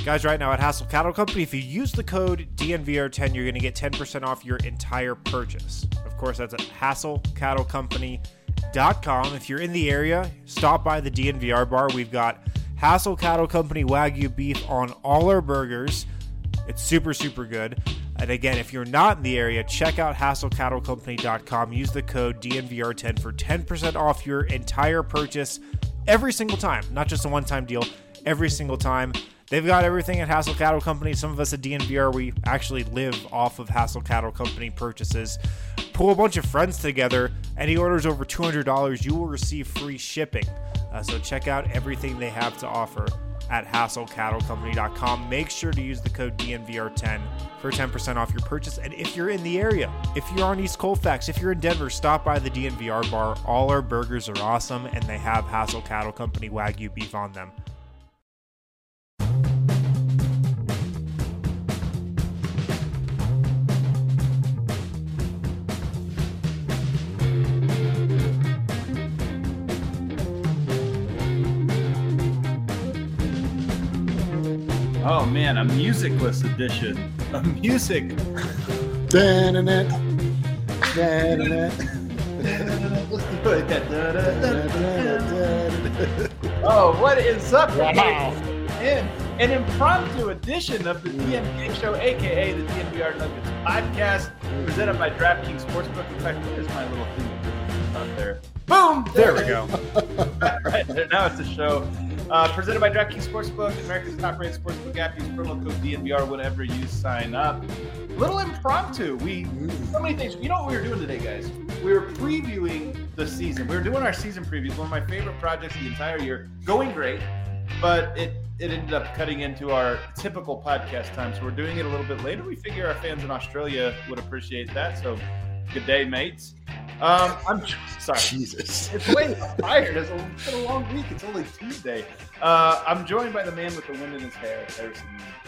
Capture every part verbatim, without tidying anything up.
Guys, right now at Hassel Cattle Company, if you use the code D N V R ten, you're going to get ten percent off your entire purchase. Of course, that's at hassel cattle company dot com. If you're in the area, stop by the D N V R bar. We've got Hassel Cattle Company Wagyu beef on all our burgers. It's super, super good. And again, if you're not in the area, check out hassel cattle company dot com. Use the code D N V R ten for ten percent off your entire purchase every single time. Not just a one-time deal, every single time. They've got everything at Hassel Cattle Company. Some of us at D N V R, we actually live off of Hassel Cattle Company purchases. Pull a bunch of friends together. Any orders over two hundred dollars, you will receive free shipping. Uh, so check out everything they have to offer at hassel cattle company dot com. Make sure to use the code D N V R ten for ten percent off your purchase. And if you're in the area, if you're on East Colfax, if you're in Denver, stop by the D N V R bar. All our burgers are awesome, and they have Hassel Cattle Company Wagyu beef on them. Oh man, a musicless edition. A music. Da-na-na. Da-na-na. Oh, what is up? Wow. In an impromptu edition of the D N V Show, aka the D N V R Nuggets podcast, presented by DraftKings Sportsbook. In fact, where's my little thing up there? Boom! There we go. Right there. Now it's a show. Uh, presented by DraftKings Sportsbook, America's top-rated sportsbook app. Use promo code D N V R whenever you sign up. Little impromptu. We so many things. You know what we were doing today, guys? We were previewing the season. We were doing our season previews. One of my favorite projects the entire year. Going great, but it it ended up cutting into our typical podcast time. So we're doing it a little bit later. We figure our fans in Australia would appreciate that. So good day, mates. Um, I'm sorry. Jesus. It's late. I'm tired. It's, a, it's been a long week. It's only Tuesday. Uh, I'm joined by the man with the wind in his hair, Harrison.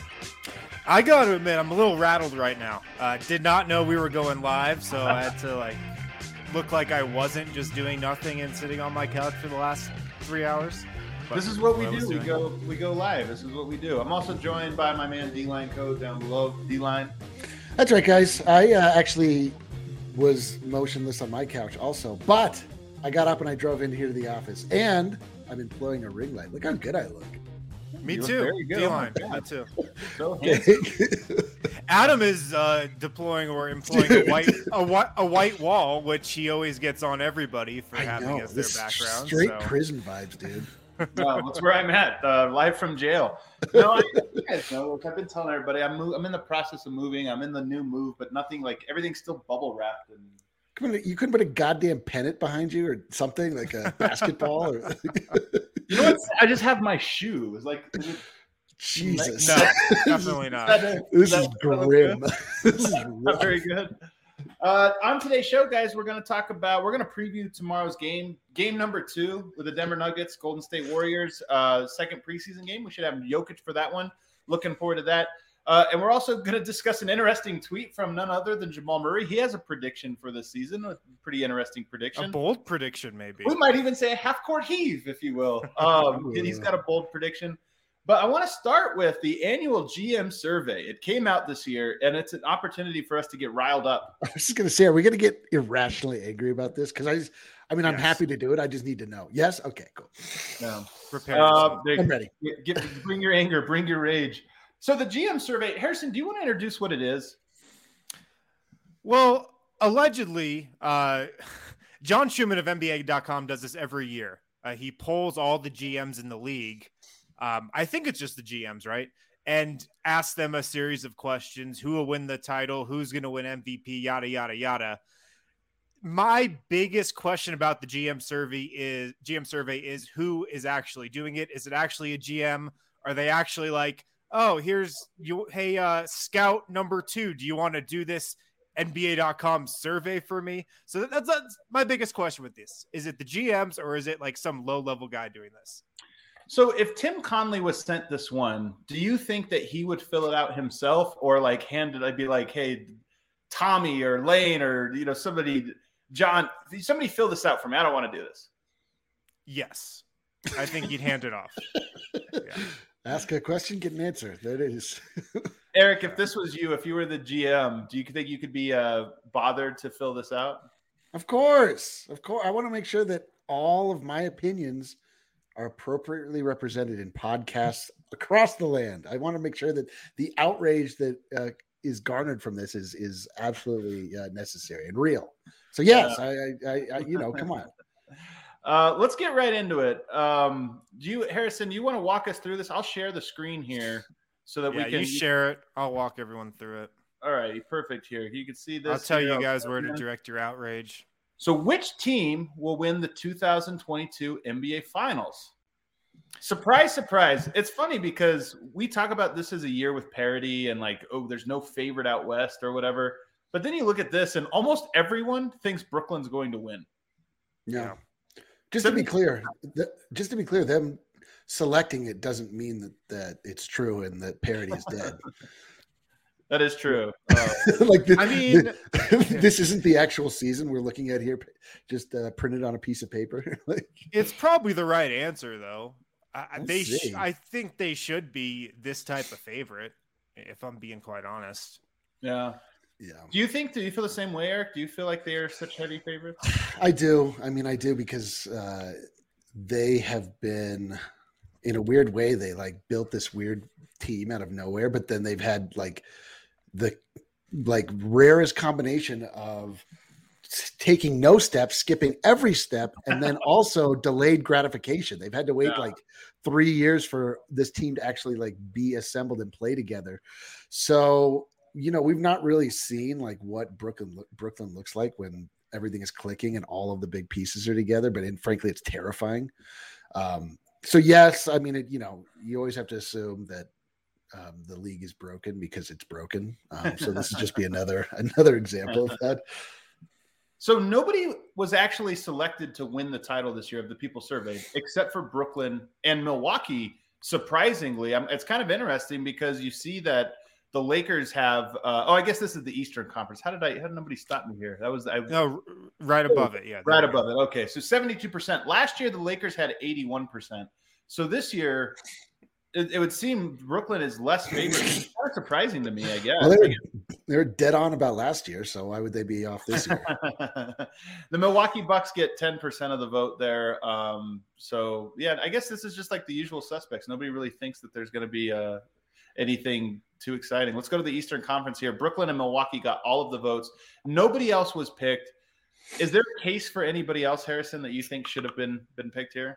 I got to admit, I'm a little rattled right now. Uh, did not know we were going live, so I had to like look like I wasn't just doing nothing and sitting on my couch for the last three hours. But this is what we what do. We go we go live. This is what we do. I'm also joined by my man D-Line Code down below. D-Line. That's right, guys. I uh, actually was motionless on my couch also, but I got up and I drove in here to the office, and I'm employing a ring light. Look how good I look. Me You look too. very good. D-line. Oh my Me God. too. So handsome. Adam is uh, deploying or employing a white a, whi- a white wall, which he always gets on everybody for I having know. as their This background. straight so. prison vibes, dude. No, that's where I'm at, uh, live from jail. No, I, you guys know. Look, I've been telling everybody I'm move, I'm in the process of moving. I'm in the new move, but nothing like everything's still bubble wrapped and. Come on, you couldn't put a goddamn pennant behind you or something like a basketball or You know what? I just have my shoe. It's like is it, Jesus. No, definitely not. This that- is that look grim. good? This is Not very good. Uh, on today's show, guys, we're going to talk about, we're going to preview tomorrow's game, game number two with the Denver Nuggets, Golden State Warriors, uh, second preseason game. We should have Jokic for that one. Looking forward to that. Uh, and we're also going to discuss an interesting tweet from none other than Jamal Murray. He has a prediction for this season, a pretty interesting prediction. A bold prediction, maybe. We might even say a half-court heave, if you will. Um, he's got a bold prediction. But I want to start with the annual G M survey. It came out this year, and it's an opportunity for us to get riled up. I was just gonna say, are we gonna get irrationally angry about this? Because I just, I mean, I'm Yes. happy to do it. I just need to know. Yes, okay, cool. No. Prepare Uh, yourself. there- I'm ready. get- get- bring your anger, bring your rage. So the G M survey, Harrison, do you want to introduce what it is? Well, allegedly, uh, John Schumann of N B A dot com does this every year. Uh, he polls all the G Ms in the league. Um, I think it's just the G Ms, right? And asks them a series of questions. Who will win the title? Who's going to win M V P? Yada, yada, yada. My biggest question about the G M survey is G M survey is who is actually doing it? Is it actually a G M? Are they actually like, oh, here's you. Hey, uh, scout number two, do you want to do this N B A dot com survey for me? So that, that's, that's my biggest question with this. Is it the G Ms or is it like some low level guy doing this? So if Tim Conley was sent this one, do you think that he would fill it out himself or like hand it? I'd be like, hey, Tommy or Lane or, you know, somebody, John, somebody fill this out for me. I don't want to do this. Yes. I think he'd hand it off. Yeah. Ask a question, get an answer. There it is. Eric, if this was you, if you were the G M, do you think you could be uh, bothered to fill this out? Of course. Of course. I want to make sure that all of my opinions are appropriately represented in podcasts across the land. I want to make sure that the outrage that uh, is garnered from this is is absolutely uh, necessary and real. So yes, uh, I, I, I, you know, come on. Uh, let's get right into it. Um, do you, Harrison, you want to walk us through this? I'll share the screen here so that yeah, we can. You share it. I'll walk everyone through it. All right, perfect. Here, you can see this. I'll tell here. you guys where to direct your outrage. So, which team will win the two thousand twenty-two N B A Finals? Surprise, surprise. It's funny because we talk about this as a year with parity and like, oh, there's no favorite out west or whatever. But then you look at this and almost everyone thinks Brooklyn's going to win. Yeah. Just to be clear, the, just to be clear, them selecting it doesn't mean that, that it's true and that parity is dead. That is true. Uh, like the, I mean, the, this isn't the actual season we're looking at here, just uh, printed on a piece of paper. Like, it's probably the right answer, though. I, they, see. sh- I think they should be this type of favorite, if I'm being quite honest. Yeah. Yeah. Do you think, do you feel the same way, Eric? Do you feel like they are such heavy favorites? I do. I mean, I do because uh, they have been, in a weird way, they like built this weird team out of nowhere, but then they've had like the like rarest combination of taking no steps, skipping every step, and then also delayed gratification. They've had to wait yeah. like three years for this team to actually like be assembled and play together. So, you know, we've not really seen like what Brooklyn Brooklyn looks like when everything is clicking and all of the big pieces are together. But in, frankly, it's terrifying. Um, so yes, I mean, it, you know, you always have to assume that um, the league is broken because it's broken. Um, so this would just be another another example of that. So nobody was actually selected to win the title this year of the people surveyed, except for Brooklyn and Milwaukee. Surprisingly, um, it's kind of interesting because you see that the Lakers have. Uh, oh, I guess this is the Eastern Conference. How did I? How did nobody stop me here? That was I. No, right above it. Yeah, right above it. Okay, so seventy-two percent. Last year, the Lakers had eighty-one percent. So this year, it, it would seem Brooklyn is less favored. It's kind of surprising to me, I guess. Well, they, were, they were dead on about last year, so why would they be off this year? The Milwaukee Bucks get ten percent of the vote there. Um, so, yeah, I guess this is just like the usual suspects. Nobody really thinks that there's going to be uh, anything too exciting. Let's go to the Eastern Conference here. Brooklyn and Milwaukee got all of the votes. Nobody else was picked. Is there a case for anybody else, Harrison, that you think should have been been picked here?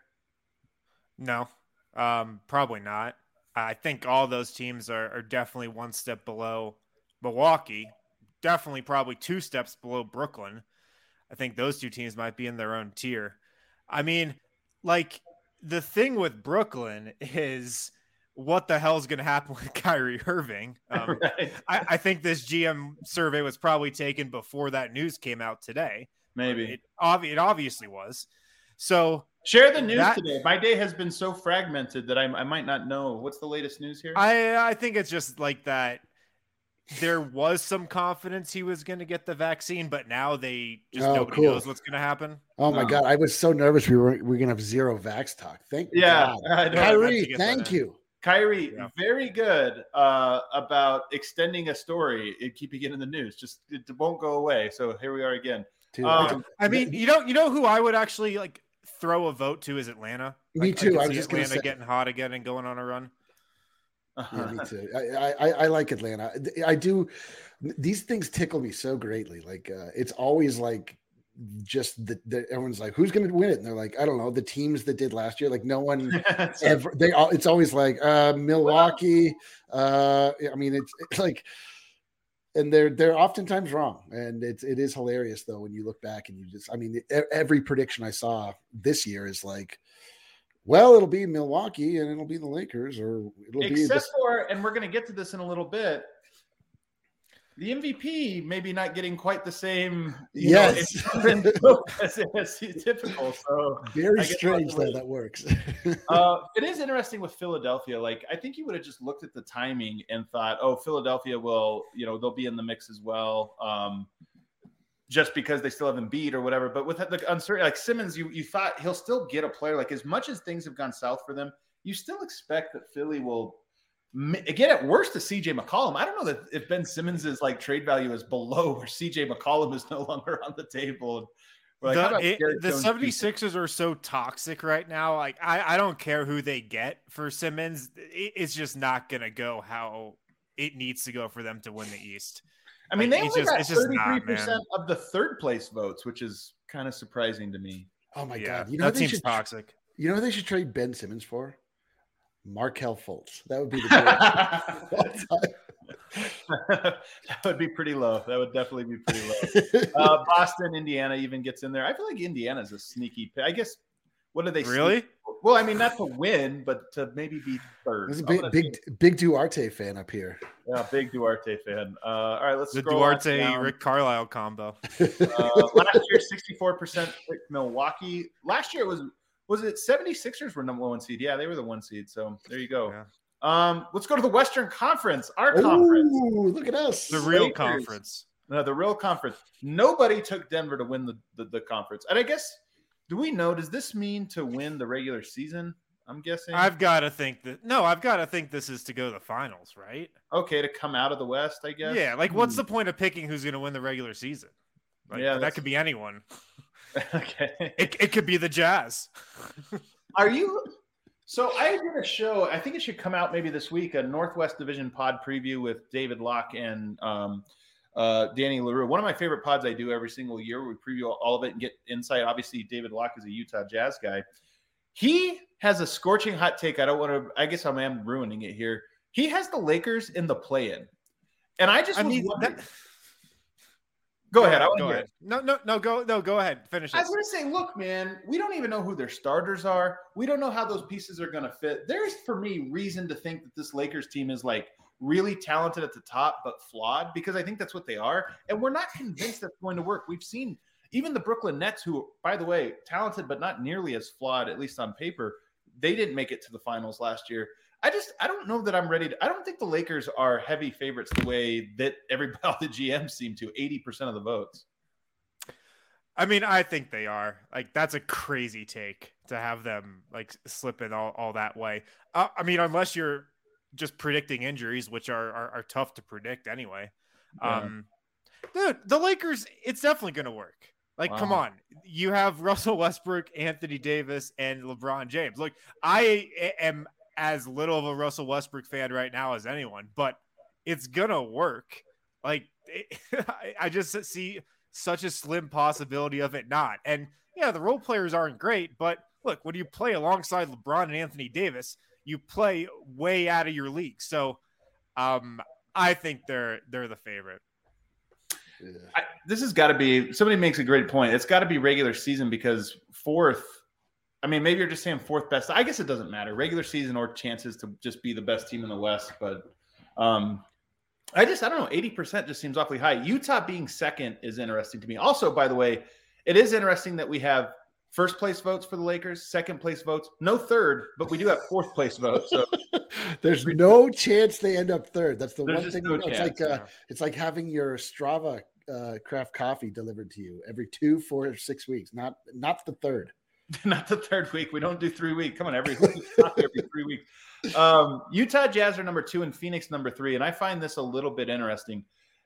No, um, probably not. I think all those teams are, are definitely one step below Milwaukee, definitely probably two steps below Brooklyn. I think those two teams might be in their own tier. I mean, like, the thing with Brooklyn is what the hell is going to happen with Kyrie Irving? Um, right. I, I think this G M survey was probably taken before that news came out today. Maybe. It, obvi- it obviously was. So share the news that, today. My day has been so fragmented that I, I might not know. What's the latest news here? I, I think it's just like that. There was some confidence he was going to get the vaccine, but now they just oh, nobody cool. knows what's going to happen. Oh my oh. God. I was so nervous. We were, we were going to have zero vax talk. Thank yeah, God. Kyrie, thank you. Kyrie, yeah. very good uh, about extending a story and keeping it in the news. Just it won't go away. So here we are again. Dude, um, I mean, you know, you know who I would actually like throw a vote to is Atlanta. Me like, too. I, I was just Atlanta gonna say. getting hot again and going on a run. Yeah, me too. I, I I like Atlanta. I do. These things tickle me so greatly. Like uh, it's always like just the, the everyone's like, who's going to win it? And they're like, I don't know, the teams that did last year. Like no one ever. They all. It's always like uh, Milwaukee. Uh, I mean, it's, it's like, and they're they're oftentimes wrong. And it's it is hilarious though when you look back and you just. I mean, every prediction I saw this year is like, well, it'll be Milwaukee and it'll be the Lakers, or it'll Except be Except for, and we're going to get to this in a little bit, the M V P maybe not getting quite the same, you yes, know, as, as typical. So very strange that that works. uh, it is interesting with Philadelphia. Like, I think you would have just looked at the timing and thought, oh, Philadelphia will, you know, they'll be in the mix as well. Um, just because they still have Embiid or whatever. But with the uncertainty, like Simmons, you, you thought he'll still get a player. Like as much as things have gone south for them, you still expect that Philly will get at worst to C J McCollum. I don't know that if Ben Simmons' like trade value is below where C J McCollum is no longer on the table. Like, the it, the seventy-sixers are so toxic right now. Like, I, I don't care who they get for Simmons. It, it's just not going to go how it needs to go for them to win the East. I mean, like, they it's only just, got it's thirty-three percent of the third place votes, which is kind of surprising to me. Oh, my yeah, God. You know that they seems should, toxic. You know what they should trade Ben Simmons for? Markelle Fultz. That would be the greatest. That would be pretty low. That would definitely be pretty low. Uh, Boston, Indiana even gets in there. I feel like Indiana's a sneaky pick. I guess, what do they really? Sneak? Well, I mean, not to win, but to maybe be third. There's a big, big, big Duarte fan up here. Yeah, big Duarte fan. Uh, all right, let's the scroll Duarte Rick Carlisle combo. uh, last year, sixty-four percent picked Milwaukee. Last year it was was it seventy-sixers were number one seed? Yeah, they were the one seed. So there you go. Yeah. Um, let's go to the Western Conference. Our Ooh, conference. Look at us. The real Lakers. conference. No, the real conference. Nobody took Denver to win the, the, the conference. And I guess, do we know, does this mean to win the regular season? I'm guessing. I've got to think that – no, I've got to think this is to go to the finals, right? Okay, to come out of the West, I guess. Yeah, like what's the point of picking who's going to win the regular season? Like, yeah, that could be anyone. Okay. It, it could be the Jazz. Are you – so I did a show, I think it should come out maybe this week, a Northwest Division pod preview with David Locke and um, uh, Danny LaRue. One of my favorite pods I do every single year where we preview all of it and get insight. Obviously, David Locke is a Utah Jazz guy. He has a scorching hot take. I don't want to – I guess I am ruining it here. He has the Lakers in the play-in. And I just I was mean, wondering that, – Go ahead. I want go to hear ahead. it. No, no, no, go, no, go ahead. Finish it. I was going to say, look, man, we don't even know who their starters are. We don't know how those pieces are going to fit. There's, for me, reason to think that this Lakers team is like really talented at the top, but flawed, because I think that's what they are. And we're not convinced that's going to work. We've seen even the Brooklyn Nets, who, by the way, talented, but not nearly as flawed, at least on paper. They didn't make it to the finals last year. I just, I don't know that I'm ready to, I don't think the Lakers are heavy favorites the way that everybody, all the G Ms seem to, eighty percent of the votes. I mean, I think they are. Like, that's a crazy take to have them like slip in all, all that way. Uh, I mean, unless you're just predicting injuries, which are are, are tough to predict anyway. Yeah. Um, dude, the Lakers, it's definitely going to work. Like, wow. Come on. You have Russell Westbrook, Anthony Davis, and LeBron James. Look, I am as little of a Russell Westbrook fan right now as anyone, but it's going to work. Like, it, I just see such a slim possibility of it not. And yeah, the role players aren't great, but look, when you play alongside LeBron and Anthony Davis, you play way out of your league. So um, I think they're they're the favorite. Yeah. I, this has got to be, somebody makes a great point. It's got to be regular season, because fourth, I mean, maybe you're just saying fourth best. I guess it doesn't matter. Regular season or chances to just be the best team in the West. But um, I just, I don't know, eighty percent just seems awfully high. Utah being second is interesting to me. Also, by the way, it is interesting that we have first place votes for the Lakers, second place votes, no third, but we do have fourth place votes. So there's no chance they end up third. That's the There's one thing. no It's chance, like uh, yeah. it's like having your Strava uh, craft coffee delivered to you every two, four, or six weeks. Not not the third. Not the third week. We don't do three weeks. Come on, every week, every three weeks. Um, Utah Jazz are number two and Phoenix number three. And I find this a little bit interesting.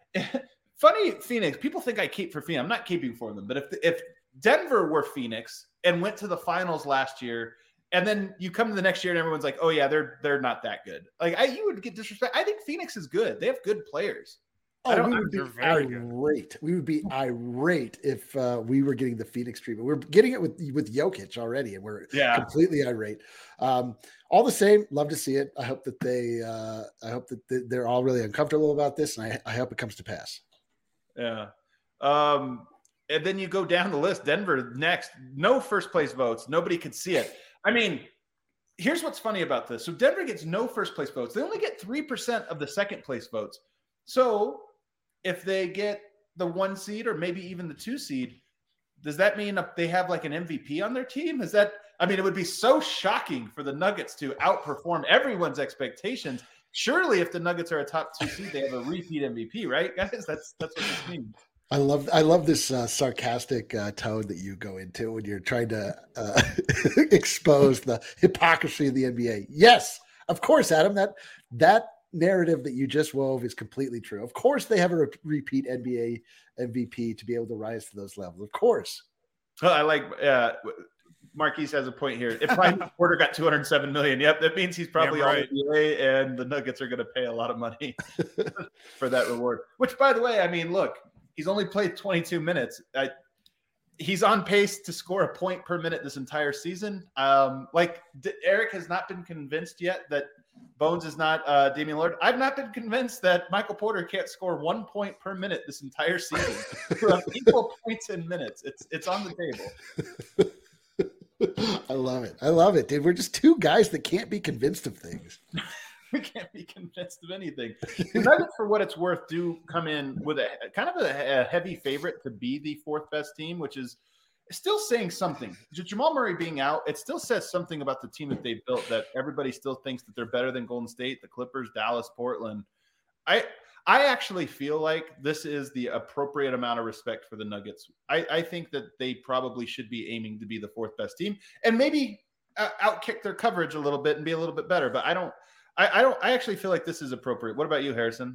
Funny, Phoenix, people think I keep for Phoenix. I'm not keeping for them. But if if Denver were Phoenix and went to the finals last year, and then you come to the next year and everyone's like, oh, yeah, they're they're not that good. Like, I, you would get disrespect. I think Phoenix is good. They have good players. Oh, I don't, we would be they're very good. irate. We would be irate if uh, we were getting the Phoenix treatment. We're getting it with with Jokic already, and we're Yeah. completely irate. Um, all the same, love to see it. I hope that they, uh, I hope that they're all really uncomfortable about this, and I, I hope it comes to pass. Yeah. Um, and then you go down the list. Denver next. No first place votes. Nobody could see it. I mean, here's what's funny about this. So Denver gets no first place votes. They only get three percent of the second place votes. So if they get the one seed or maybe even the two seed, does that mean they have like an M V P on their team? Is that, I mean, it would be so shocking for the Nuggets to outperform everyone's expectations. Surely if the Nuggets are a top two seed, they have a repeat M V P, right, guys? That's, that's what this means. I love I love this uh, sarcastic uh, tone that you go into when you're trying to uh, expose the hypocrisy of the N B A. Yes, of course, Adam. That that narrative that you just wove is completely true. Of course, they have a re- repeat N B A M V P to be able to rise to those levels. Of course. Well, I like uh, Marquise has a point here. If Michael Porter got two hundred seven million, yep, that means he's probably all N B A, and the Nuggets are going to pay a lot of money for that reward. Which, by the way, I mean, look. He's only played twenty-two minutes. I, he's on pace to score a point per minute this entire season. Um, like D- Eric has not been convinced yet that Bones is not uh, Damian Lillard. I've not been convinced that Michael Porter can't score one point per minute this entire season. From equal points in minutes. It's it's on the table. I love it. I love it, dude. We're just two guys that can't be convinced of things. We can't be convinced of anything. The Nuggets, for what it's worth, do come in with a kind of a, a heavy favorite to be the fourth best team, which is still saying something. Jamal Murray being out, it still says something about the team that they've built, that everybody still thinks that they're better than Golden State, the Clippers, Dallas, Portland. I I actually feel like this is the appropriate amount of respect for the Nuggets. I, I think that they probably should be aiming to be the fourth best team and maybe uh, outkick their coverage a little bit and be a little bit better. But I don't. I, I don't. I actually feel like this is appropriate. What about you, Harrison?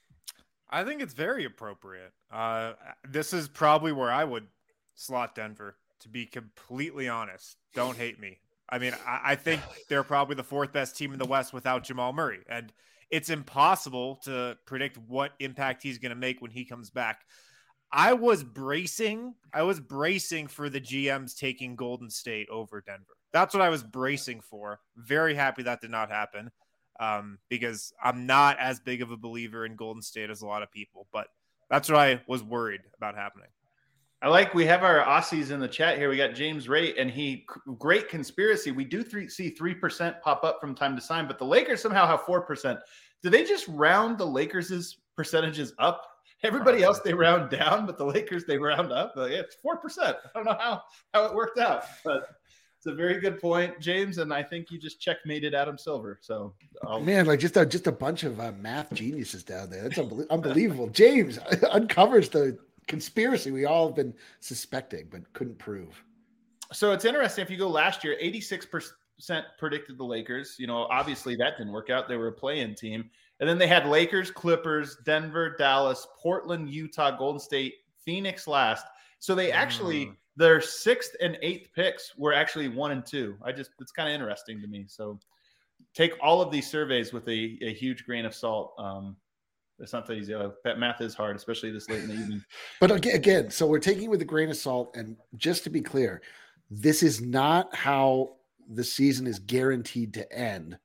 I think it's very appropriate. Uh, this is probably where I would slot Denver, to be completely honest. Don't hate me. I mean, I, I think they're probably the fourth best team in the West without Jamal Murray, and it's impossible to predict what impact he's going to make when he comes back. I was bracing. I was bracing for the G Ms taking Golden State over Denver. That's what I was bracing for. Very happy that did not happen. Um, because I'm not as big of a believer in Golden State as a lot of people, but that's what I was worried about happening. I like, we have our Aussies in the chat here. We got James Ray, and he, great conspiracy. We do three, see three percent pop up from time to time, but the Lakers somehow have four percent. Do they just round the Lakers' percentages up? Everybody else, they round down, but the Lakers, they round up. Like, it's four percent. I don't know how, how it worked out, but it's a very good point, James, and I think you just checkmated Adam Silver. So, I'll... man, like just a, just a bunch of uh, math geniuses down there. That's unbe- unbelievable. James uncovers the conspiracy we all have been suspecting but couldn't prove. So it's interesting. If you go last year, eighty-six percent predicted the Lakers. You know, obviously that didn't work out. They were a play-in team, and then they had Lakers, Clippers, Denver, Dallas, Portland, Utah, Golden State, Phoenix last. So they actually. Mm. Their sixth and eighth picks were actually one and two. I just, it's kind of interesting to me. So take all of these surveys with a, a huge grain of salt. Um, it's not that easy. That math is hard, especially this late in the evening. But again, so we're taking it with a grain of salt. And just to be clear, this is not how the season is guaranteed to end.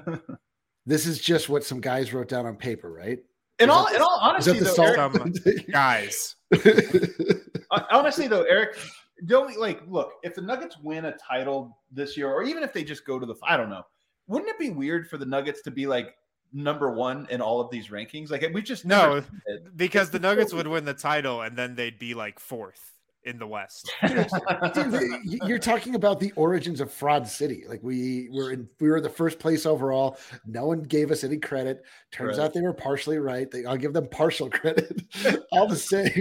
This is just what some guys wrote down on paper, right? In all, in all honesty, though, Eric, guys. Honestly, though, Eric, don't like look. If the Nuggets win a title this year, or even if they just go to the, I don't know, wouldn't it be weird for the Nuggets to be like number one in all of these rankings? Like we just no, because the Nuggets would win the title and then they'd be like fourth in the West. Dude, you're talking about the origins of Fraud City. Like we were in, we were the first place overall. No one gave us any credit. Turns right. out they were partially right. They, I'll give them partial credit. All the same,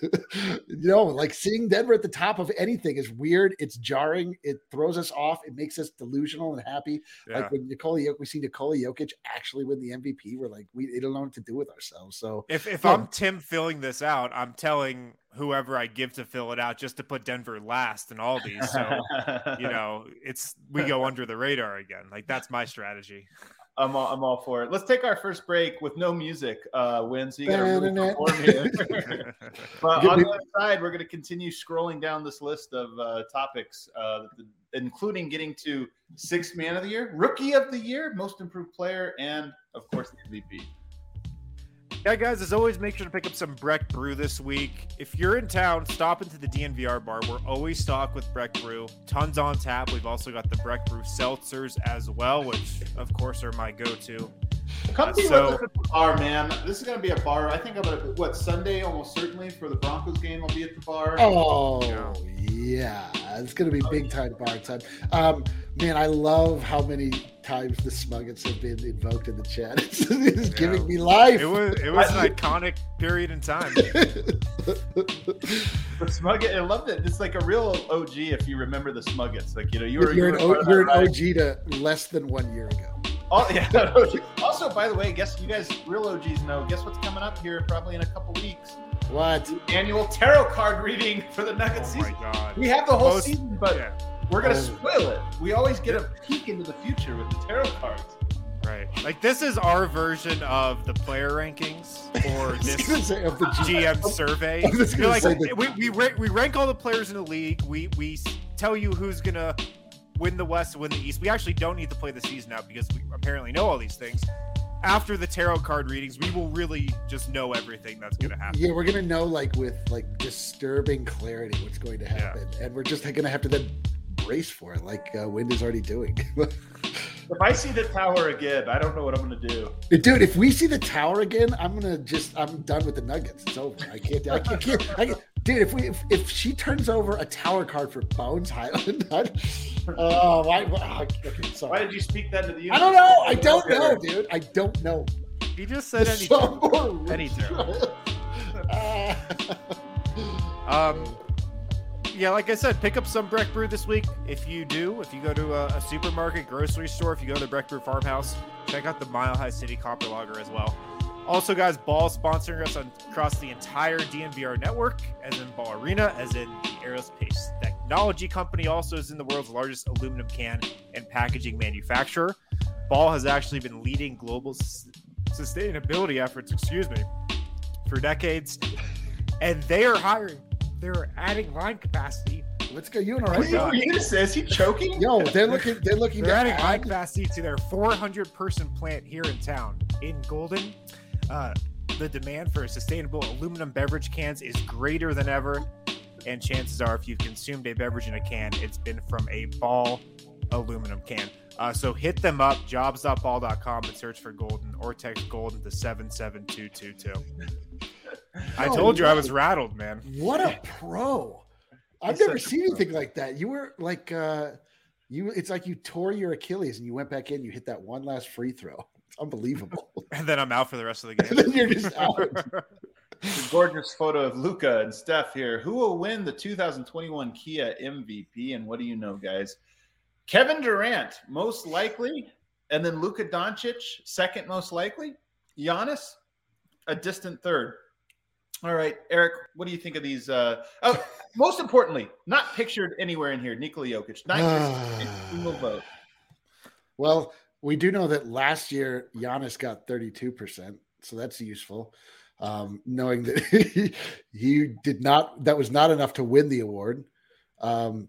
you know, like seeing Denver at the top of anything is weird. It's jarring. It throws us off. It makes us delusional and happy. Yeah. Like when Nikola Jokic, we see Nikola Jokic actually win the M V P. We're like, we don't know what to do with ourselves. So if if yeah. I'm Tim filling this out, I'm telling whoever I give to fill it out just to put Denver last in all these. So, you know, it's, we go under the radar again. Like that's my strategy. I'm all, I'm all for it. Let's take our first break with no music, uh, Win. So you got to really perform here. But on the other side, we're going to continue scrolling down this list of uh, topics, uh, including getting to sixth man of the year, rookie of the year, most improved player, and of course the M V P. Yeah, guys, as always, make sure to pick up some Breck Brew this week. If you're in town, stop into the D N V R bar. We're always stocked with Breck Brew. Tons on tap. We've also got the Breck Brew seltzers as well, which, of course, are my go-to. Come uh, be so, with us at the bar, man. This is going to be a bar. I think I'm going to, what, Sunday, almost certainly, for the Broncos game, I'll be at the bar. Oh, yeah. Yeah, it's going to be big time bar time. Um, man, I love how many times the Smuggets have been invoked in the chat. It's, it's yeah. giving me life. It was it was an iconic period in time. The Smugget, I loved it. It's like a real O G if you remember the Smuggets. Like, you know, you were you're, you an, were o, you're an O G to less than one year ago. Oh, yeah. Also, by the way, guess you guys, real O Gs know, guess what's coming up here probably in a couple weeks? What? The annual tarot card reading for the Nuggets oh season. My God. We have the whole Most, season, but yeah. we're going to oh. spoil it. We always get a peek into the future with the tarot cards. Right. Like, this is our version of the player rankings or this say, of the G M survey. You're like, we, we, rank, we rank all the players in the league. We, we tell you who's going to win the West, win the East. We actually don't need to play the season out because we apparently know all these things. After the tarot card readings, we will really just know everything that's going to happen. Yeah, we're going to know, like, with, like, disturbing clarity what's going to happen. Yeah. And we're just going to have to then brace for it, like uh, Wind is already doing. If I see the tower again, I don't know what I'm going to do. Dude, if we see the tower again, I'm going to just, I'm done with the Nuggets. It's over. I can't, I can't, I can't, I can't. Dude, if we, if, if she turns over a tower card for Bones Hyland, oh, why, why, okay, sorry. Why did you speak that to the universe? I don't know. I don't know, dude. I don't know. He just said any so any tarot. uh, um, yeah, like I said, pick up some Breck Brew this week. If you do, if you go to a, a supermarket, grocery store, if you go to the Breck Brew Farmhouse, check out the Mile High City Copper Lager as well. Also, guys, Ball sponsoring us on, across the entire D N V R network, as in Ball Arena, as in the Aerospace Technology Company, also is in the world's largest aluminum can and packaging manufacturer. Ball has actually been leading global s- sustainability efforts, excuse me, for decades, and they are hiring. They're adding line capacity. Let's go. You and all right? What are you gonna say? Is he choking? Yo, they're looking. They're looking. They're adding add... line capacity to their four hundred person plant here in town in Golden. Uh, the demand for sustainable aluminum beverage cans is greater than ever, and chances are, if you've consumed a beverage in a can, it's been from a Ball aluminum can. Uh, so hit them up, jobs dot ball dot com, and search for Golden, or text Golden to seven seven two two two. I told you I was rattled, man. What a pro! I've never seen anything like that. You were like, uh, you. It's like you tore your Achilles and you went back in. You hit that one last free throw. It's unbelievable. And then I'm out for the rest of the game. And then you're just out. Gorgeous photo of Luka and Steph here. Who will win the two thousand twenty-one Kia M V P? And what do you know, guys? Kevin Durant, most likely, and then Luka Doncic, second most likely. Giannis, a distant third. All right, Eric, what do you think of these? Uh, oh, most importantly, not pictured anywhere in here, Nikola Jokic. Not a single vote. Well, we do know that last year Giannis got thirty-two percent, so that's useful. Um, knowing that he, he did not, that was not enough to win the award. Um,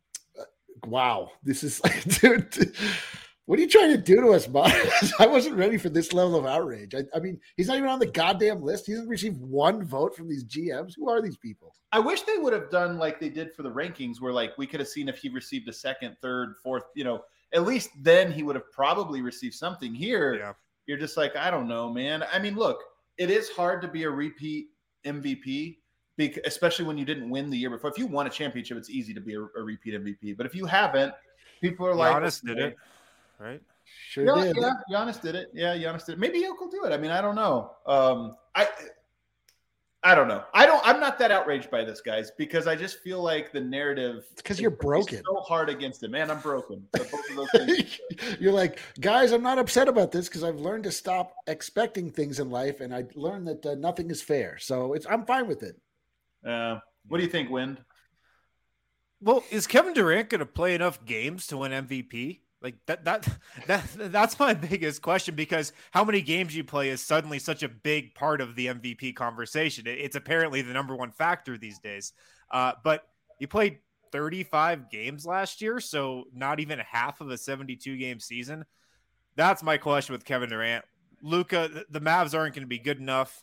wow, this is like, dude. What are you trying to do to us, Bob? I wasn't ready for this level of outrage. I, I mean, he's not even on the goddamn list. He hasn't received one vote from these G Ms. Who are these people? I wish they would have done like they did for the rankings, where like we could have seen if he received a second, third, fourth, you know, at least then he would have probably received something. Here, yeah. You're just like, I don't know, man. I mean, look, it is hard to be a repeat M V P, because, especially when you didn't win the year before. If you won a championship, it's easy to be a, a repeat M V P. But if you haven't, people are like, Giannis did it. Right? Sure yeah, did. Yeah, Giannis did it. Yeah, Giannis did it. Maybe Yoke will do it. I mean, I don't know. Um, I I don't know. I don't I'm not that outraged by this, guys, because I just feel like the narrative It's because you're broken. So hard against him. Man, I'm broken. So both of those things. You're like, guys, I'm not upset about this because I've learned to stop expecting things in life, and I learned that uh, nothing is fair. So it's I'm fine with it. Uh, what do you think, Wind? Well, is Kevin Durant going to play enough games to win M V P? Like that, that, that, that's my biggest question, because how many games you play is suddenly such a big part of the M V P conversation. It's apparently the number one factor these days. Uh, but he played thirty-five games last year, so not even half of a seventy-two game season. That's my question with Kevin Durant. Luka, the Mavs aren't going to be good enough.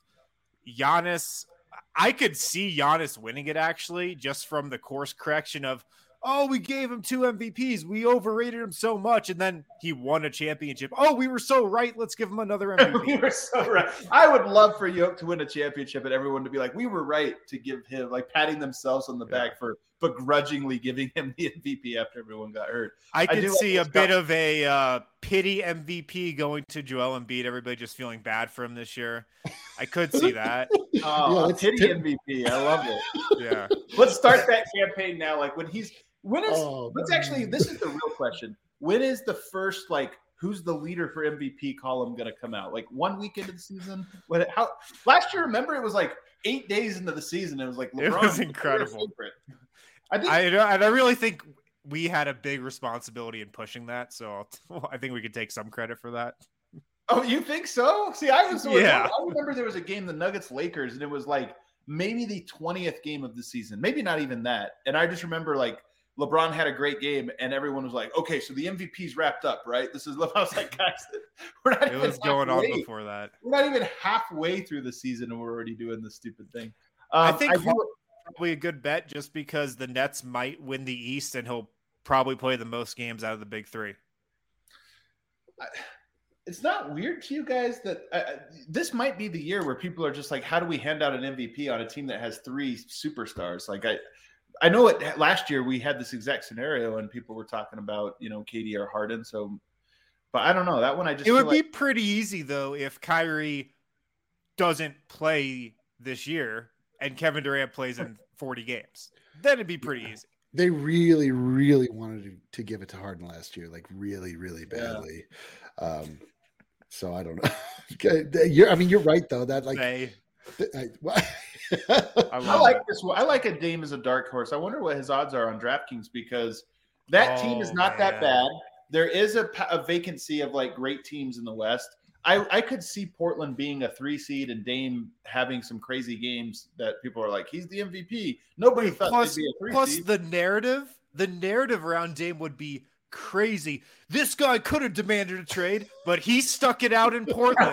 Giannis, I could see Giannis winning it actually, just from the course correction of, oh, we gave him two M V Ps. We overrated him so much. And then he won a championship. Oh, we were so right. Let's give him another M V P. We were so right. I would love for Yoke to win a championship and everyone to be like, we were right to give him, like patting themselves on the back yeah. for begrudgingly giving him the M V P after everyone got hurt. I could I see like a bit of a uh, pity M V P going to Joel Embiid. Everybody just feeling bad for him this year. I could see that. Oh, yeah, pity t- M V P. I love it. Yeah. Let's start that campaign now. Like when he's when is oh, let's actually this is the real question. When is the first like who's the leader for M V P column going to come out? Like one week into the season? When how last year? Remember, it was like eight days into the season. It was like LeBron. It was incredible. I think, I and I really think we had a big responsibility in pushing that. So I'll, I think we could take some credit for that. Oh, you think so? See, I was. Yeah. I remember there was a game, the Nuggets Lakers, and it was like maybe the twentieth game of the season, maybe not even that. And I just remember like LeBron had a great game, and everyone was like, "Okay, so the M V P's wrapped up, right?" This is. I was like, guys, we're not. It even was going halfway. on before that. We're not even halfway through the season, and we're already doing this stupid thing. Um, I think I do, probably a good bet, just because the Nets might win the East, and he'll probably play the most games out of the big three. I, It's not weird to you guys that uh, this might be the year where people are just like, how do we hand out an M V P on a team that has three superstars? Like I, I know it last year we had this exact scenario and people were talking about, you know, K D or Harden. So, but I don't know that one. I just, it would like, be pretty easy though, if Kyrie doesn't play this year and Kevin Durant plays in forty games, then it'd be pretty yeah. easy. They really, really wanted to, to give it to Harden last year, like really, really badly. Yeah. Um, So I don't know. you're, I mean, you're right though. That like, they, I, well, I, I like it. this. I like a Dame as a dark horse. I wonder what his odds are on DraftKings because that oh, team is not man. that bad. There is a, a vacancy of like great teams in the West. I, I could see Portland being a three seed and Dame having some crazy games that people are like, he's the M V P. Nobody thought plus, he'd be a three plus seed. the narrative, the narrative around Dame would be crazy. This guy could have demanded a trade, but he stuck it out in Portland.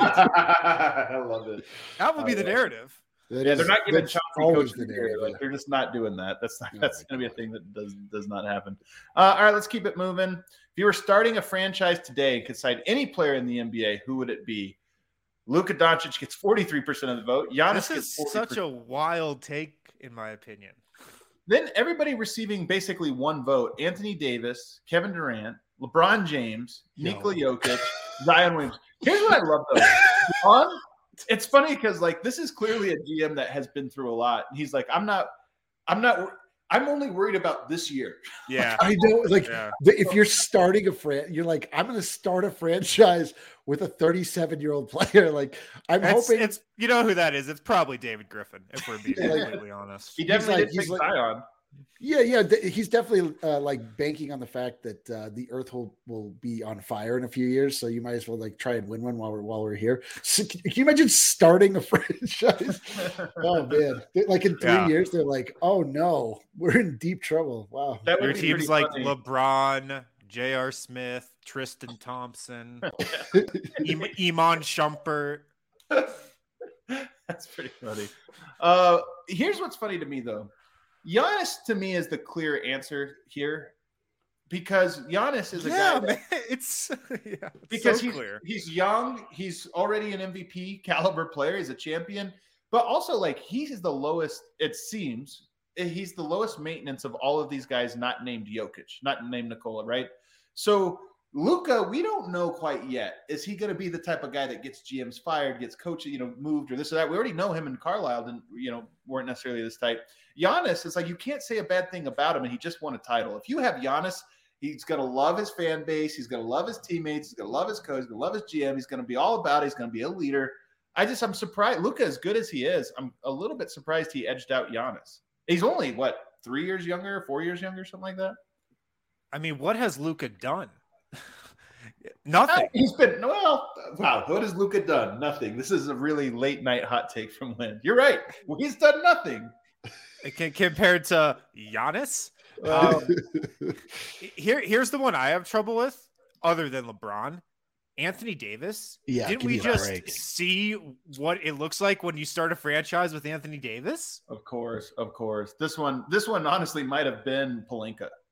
I love it. That would be the narrative. That yeah, is, they're not giving Chauncey coach the narrative. Like, they're just not doing that. That's not, that's going to be a thing that does does not happen. Uh, all right, let's keep it moving. If you were starting a franchise today and could cite any player in the N B A, who would it be? Luka Doncic gets forty-three percent of the vote. Giannis this is gets such a wild take, in my opinion. Then everybody receiving basically one vote: Anthony Davis, Kevin Durant, LeBron James, Nikola no. Jokic, Zion Williams. Here's what I love though. On, it's funny because like this is clearly a G M that has been through a lot. And he's like, I'm not, I'm not, I'm only worried about this year. Yeah, I know. Like yeah. the, if you're starting a fran, you're like, I'm going to start a franchise with a thirty-seven year old player. Like I'm it's, hoping it's you know who that is. It's probably David Griffin. If we're being completely honest, he definitely like, did take like, Zion. Yeah, yeah, th- he's definitely uh, like banking on the fact that uh, the Earth will, will be on fire in a few years. So you might as well like try and win one while we're while we're here. So, can you imagine starting a franchise? Oh man, like in three yeah. years, they're like, oh no, we're in deep trouble. Wow, that your team's like funny. LeBron, J R. Smith, Tristan Thompson, Im- Iman Shumpert. That's pretty funny. Uh, here's what's funny to me though. Giannis to me is the clear answer here because Giannis is a yeah, guy that, man, it's yeah, because so he's, clear. he's young, he's already an M V P caliber player, he's a champion, but also like he's the lowest, it seems, he's the lowest maintenance of all of these guys not named Jokic, not named Nikola, right? So Luka, we don't know quite yet. Is he going to be the type of guy that gets G Ms fired, gets coaches, you know, moved or this or that? We already know him and Carlisle didn't, you know, weren't necessarily this type. Giannis, it's like you can't say a bad thing about him, and he just won a title. If you have Giannis, he's going to love his fan base. He's going to love his teammates. He's going to love his coach. He's going to love his G M. He's going to be all about it. He's going to be a leader. I just, I'm surprised. Luka, as good as he is, I'm a little bit surprised he edged out Giannis. He's only, what, three years younger, four years younger, something like that? I mean, what has Luka done? Nothing. He's been well. Wow, what has Luka done? Nothing. This is a really late night hot take from Lynn. You're right. Well, he's done nothing. Can, compared to Giannis, um, here here's the one I have trouble with, other than LeBron. Anthony Davis. Yeah, didn't we just break. see what it looks like when you start a franchise with Anthony Davis? Of course, of course. This one, this one, honestly, might have been Pelinka.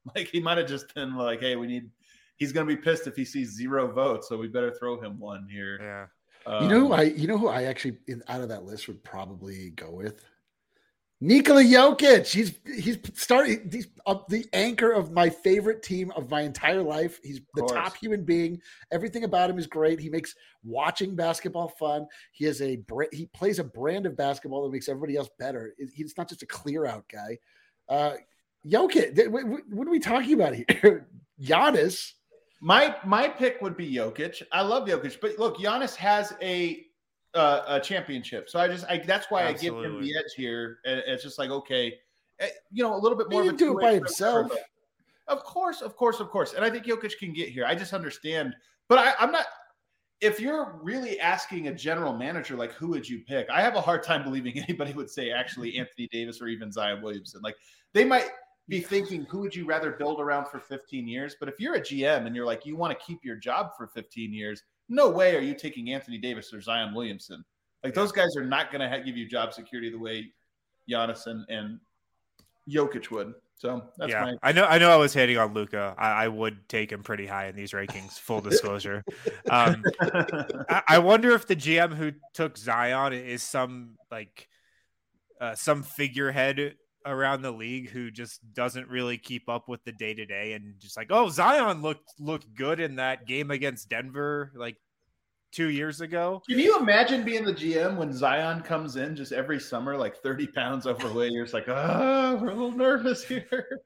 Like he might have just been like, hey, we need. He's going to be pissed if he sees zero votes, so we better throw him one here. Yeah. Um, You know who I you know who I actually in, out of that list would probably go with? Nikola Jokic. He's he's starting he's uh, the anchor of my favorite team of my entire life. He's the course. top human being. Everything about him is great. He makes watching basketball fun. He has a he plays a brand of basketball that makes everybody else better. He's not just a clear out guy. Uh, Jokic. What are we talking about here? Giannis. My my pick would be Jokic. I love Jokic, but look, Giannis has a uh, a championship, so I just I, that's why Absolutely. I give him the edge here. And it's just like okay, you know, a little bit more. He of a can do it by himself. Of course, of course, of course. And I think Jokic can get here. I just understand, but I, I'm not. If you're really asking a general manager, like who would you pick? I have a hard time believing anybody would say actually Anthony Davis or even Zion Williamson. Like they might be thinking, who would you rather build around for fifteen years? But if you're a G M and you're like, you want to keep your job for fifteen years, no way are you taking Anthony Davis or Zion Williamson. Like those guys are not going to give you job security the way Giannis and, and Jokic would. So that's yeah, my. I know. I know. I was hating on Luka. I, I would take him pretty high in these rankings. Full disclosure. um, I, I wonder if the G M who took Zion is some like uh, some figurehead around the league who just doesn't really keep up with the day to day and just like, oh, Zion looked looked good in that game against Denver like two years ago. Can you imagine being the G M when Zion comes in just every summer, like thirty pounds overweight? You're just like, oh, we're a little nervous here.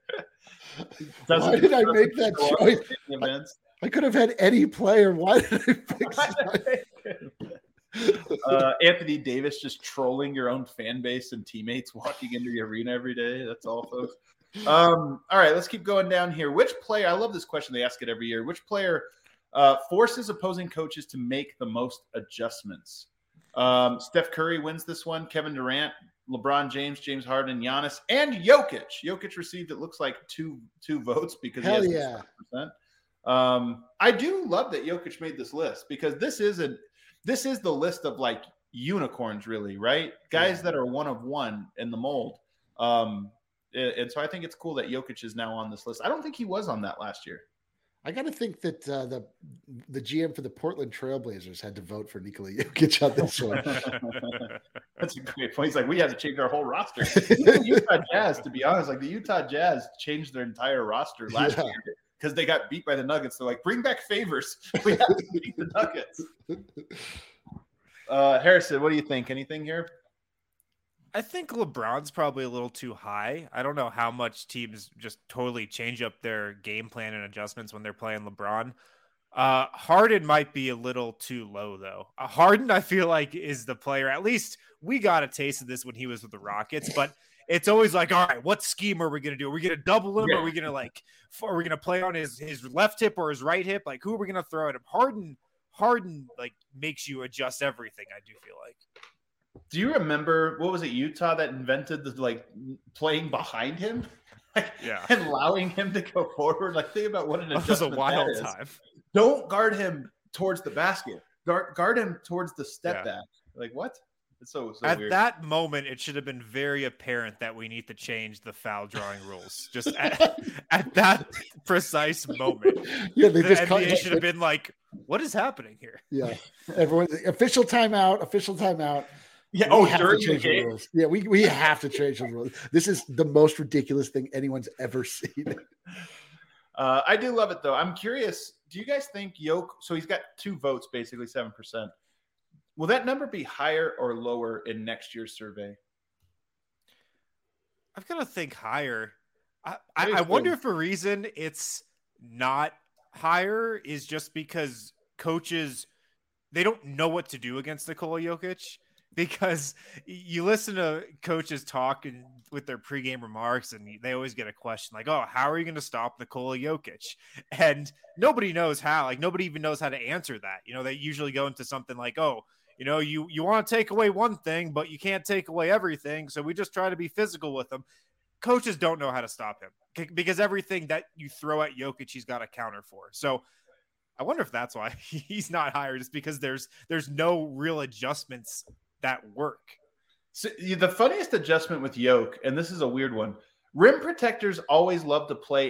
Why did I make that choice? I, I could have had any player. Why did I pick Zion? Uh, Anthony Davis just trolling your own fan base and teammates walking into the arena every day. That's all, folks. Um, all right, let's keep going down here. Which player, I love this question. They ask it every year. Which player uh, forces opposing coaches to make the most adjustments? Um, Steph Curry wins this one. Kevin Durant, LeBron James, James Harden, Giannis, and Jokic. Jokic received, it looks like, two two votes because Hell he has yeah. six percent. Um, I do love that Jokic made this list because this isn't This is the list of like unicorns, really, right? Guys Yeah. that are one of one in the mold. Um, and, and so I think it's cool that Jokic is now on this list. I don't think he was on that last year. I got to think that uh, the the G M for the Portland Trailblazers had to vote for Nikola Jokic on this one. That's a great point. He's like, we had to change our whole roster. The Utah Jazz, to be honest, like the Utah Jazz changed their entire roster last Yeah. year because they got beat by the Nuggets. They're like, bring back Favors. We have to beat the Nuggets. Uh, Harrison, what do you think? Anything here? I think LeBron's probably a little too high. I don't know how much teams just totally change up their game plan and adjustments when they're playing LeBron. Uh, Harden might be a little too low, though. Uh, Harden, I feel like, is the player. At least we got a taste of this when he was with the Rockets, but it's always like, all right, what scheme are we going to do? Are we going to double him? Yeah. Are we going to like, are we going to play on his, his left hip or his right hip? Like, who are we going to throw at him? Harden, Harden, like, makes you adjust everything, I do feel like. Do you remember, what was it, Utah that invented the like playing behind him? Like, Yeah. and allowing him to go forward? Like, think about what an That was a adjustment wild that is. time. Don't guard him towards the basket. Guard, guard him towards the step Yeah. back. Like, what? It's so, so At weird. that moment, it should have been very apparent that we need to change the foul drawing rules. Just at, at that precise moment, Yeah, they the just N B caught, A should have been like, "What is happening here?" Yeah, everyone, official timeout, official timeout. yeah, We oh, have to during the change the game? rules. Yeah, we, we have to change the rules. This is the most ridiculous thing anyone's ever seen. Uh, I do love it, though. I'm curious, do you guys think Yoke, so he's got two votes, basically seven percent. Will that number be higher or lower in next year's survey? I've got to think higher. I, What I, do you I wonder think? if a reason it's not higher is just because coaches, they don't know what to do against Nikola Jokic. Because you listen to coaches talk and with their pregame remarks, and they always get a question like, "Oh, how are you going to stop Nikola Jokic?" And nobody knows how. Like nobody even knows how to answer that. You know, they usually go into something like, "Oh, you know, you you want to take away one thing, but you can't take away everything. So we just try to be physical with him." Coaches don't know how to stop him because everything that you throw at Jokic, he's got a counter for. So I wonder if that's why he's not higher, just because there's there's no real adjustments that work. So, the funniest adjustment with Yoke, and this is a weird one, rim protectors always love to play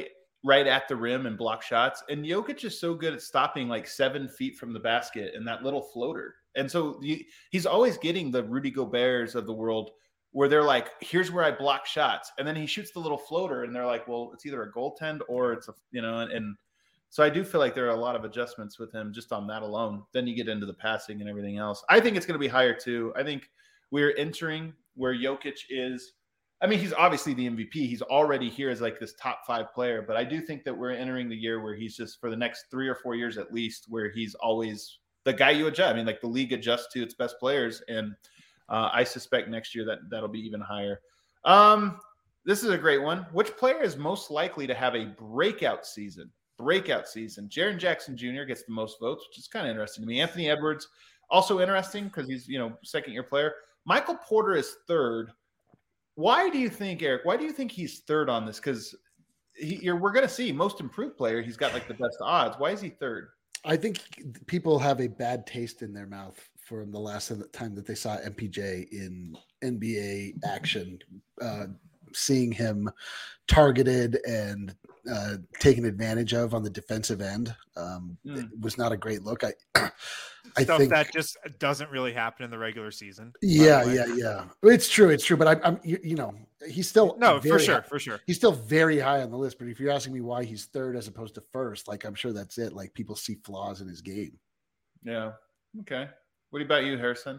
right at the rim and block shots. And Jokic is so good at stopping like seven feet from the basket and that little floater. And so he, he's always getting the Rudy Goberts of the world where they're like, here's where I block shots. And then he shoots the little floater and they're like, well, it's either a goaltend or it's a, you know, and, and so I do feel like there are a lot of adjustments with him just on that alone. Then you get into the passing and everything else. I think it's going to be higher too. I think we're entering where Jokic is. I mean, he's obviously the M V P. He's already here as like this top five player, but I do think that we're entering the year where he's just for the next three or four years at least, where he's always the guy you adjust. I mean, like the league adjusts to its best players. And uh, I suspect next year that that'll be even higher. Um, this is a great one. Which player is most likely to have a breakout season? Breakout season. Jaren Jackson Junior gets the most votes, which is kind of interesting to me. Anthony Edwards, also interesting because he's, you know, second year player. Michael Porter is third. Why do you think, Eric, why do you think he's third on this? Because we're going to see most improved player. He's got like the best odds. Why is he third? I think people have a bad taste in their mouth from the last time that they saw M P J in N B A action, uh, seeing him targeted and uh, taken advantage of on the defensive end. Um, mm. It was not a great look. I, I Stuff think that just doesn't really happen in the regular season. Yeah, yeah, yeah. It's true. It's true. But I, I'm, you, you know, he's still no, for sure, high, for sure. He's still very high on the list. But if you're asking me why he's third as opposed to first, like I'm sure that's it. Like people see flaws in his game. Yeah. Okay. What about you, Harrison?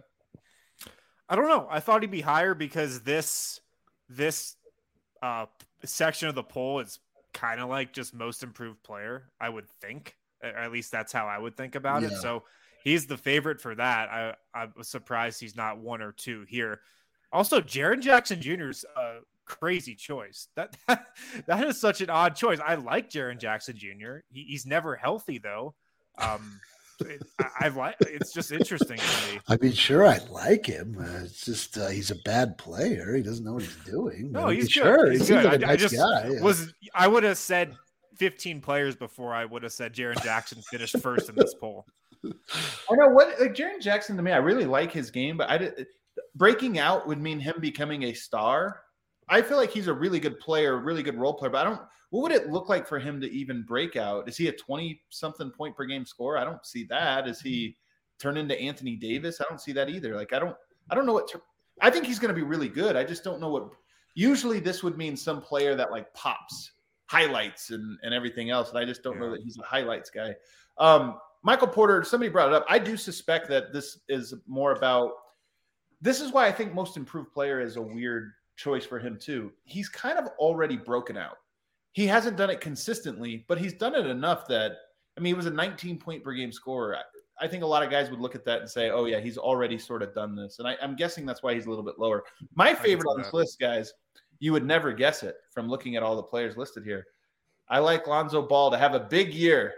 I don't know. I thought he'd be higher because this this uh, section of the poll is kind of like just most improved player, I would think. At least that's how I would think about yeah. it. So he's the favorite for that. I, I was surprised he's not one or two here. Also, Jaren Jackson Junior is a crazy choice. That, that that is such an odd choice. I like Jaren Jackson Junior He, he's never healthy though. Um, it, I, I like. It's just interesting to me. I mean, sure, I like him. Uh, it's just uh, he's a bad player. He doesn't know what he's doing. No, he's good. Sure, he's he good. like I, nice I just guy, yeah. was. I would have said fifteen players before I would have said Jaren Jackson finished first in this poll. I know what like Jaren Jackson to me. I really like his game, but I did, breaking out would mean him becoming a star. I feel like he's a really good player, really good role player, but I don't. What would it look like for him to even break out? Is he a twenty-something point per game scorer? I don't see that. Is he turn into Anthony Davis? I don't see that either. Like I don't. I don't know what. To, I think he's going to be really good. I just don't know what. Usually, this would mean some player that like pops, highlights, and and everything else. And I just don't yeah. know that he's a highlights guy. Um, Michael Porter. Somebody brought it up. I do suspect that this is more about. This is why I think most improved player is a weird choice for him too. He's kind of already broken out. He hasn't done it consistently, but he's done it enough that, I mean, he was a nineteen point per game scorer. I, I think a lot of guys would look at that and say, oh yeah, he's already sort of done this. And I, I'm guessing that's why he's a little bit lower. My favorite on this that. list, guys, you would never guess it from looking at all the players listed here. I like Lonzo Ball to have a big year.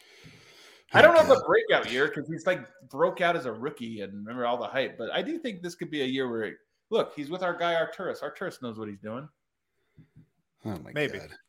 I don't know if a breakout year because he's like broke out as a rookie and remember all the hype, but I do think this could be a year where, look, he's with our guy Arturas. Arturas knows what he's doing. Oh my Maybe. God.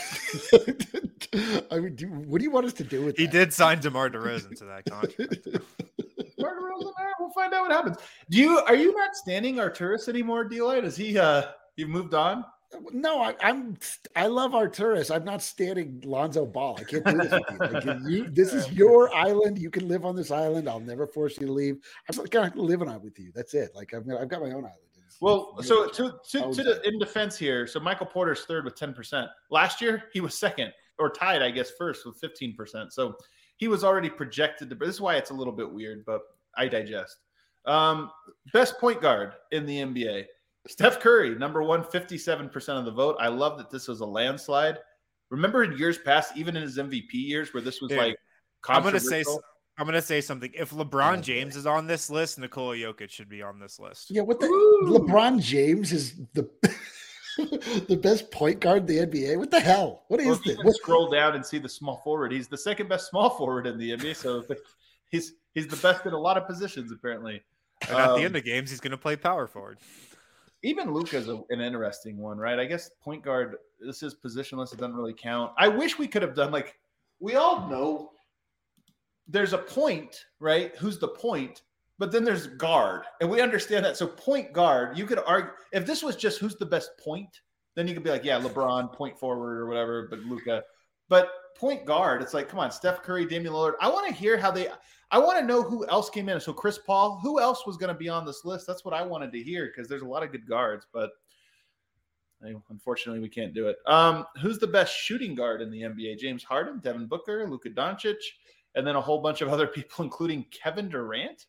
I mean, do, what do you want us to do with he that? did sign DeMar DeRozan to that contract. DeMar DeRozan, we'll find out what happens. Do you are you not standing Arturas anymore, D-Light? Is he uh you moved on? No, I, I'm. I love Arturas. I'm not standing Lonzo Ball. I can't do this with you. Like, you. This is your island. You can live on this island. I'll never force you to leave. I'm just kind of living on with you. That's it. Like I've, I've got my own island. It's, well, it's so to to, to the, in defense here, so Michael Porter's third with ten percent. Last year he was second or tied, I guess, first with fifteen percent. So he was already projected to. This is why it's a little bit weird, but I digest. Um, best point guard in the N B A. Steph Curry, number one, fifty-seven percent of the vote. I love that this was a landslide. Remember in years past, even in his M V P years, where this was Dude, like I'm gonna say I'm gonna say something. If LeBron James is on this list, Nikola Jokic should be on this list. Yeah, what the Ooh. LeBron James is the the best point guard in the N B A. What the hell? What well, is this? What? Scroll down and see the small forward. He's the second best small forward in the N B A. So he's he's the best in a lot of positions apparently. And at um, the end of games, he's gonna play power forward. Even Luka's a, an interesting one, right? I guess point guard, this is positionless. It doesn't really count. I wish we could have done like, we all know there's a point, right? Who's the point? But then there's guard. And we understand that. So point guard, you could argue, if this was just who's the best point, then you could be like, yeah, LeBron, point forward or whatever, but Luka. But point guard, it's like, come on, Steph Curry, Damian Lillard. I want to hear how they – I want to know who else came in. So Chris Paul, who else was going to be on this list? That's what I wanted to hear because there's a lot of good guards, but unfortunately we can't do it. Um, who's the best shooting guard in the N B A? James Harden, Devin Booker, Luka Doncic, and then a whole bunch of other people, including Kevin Durant?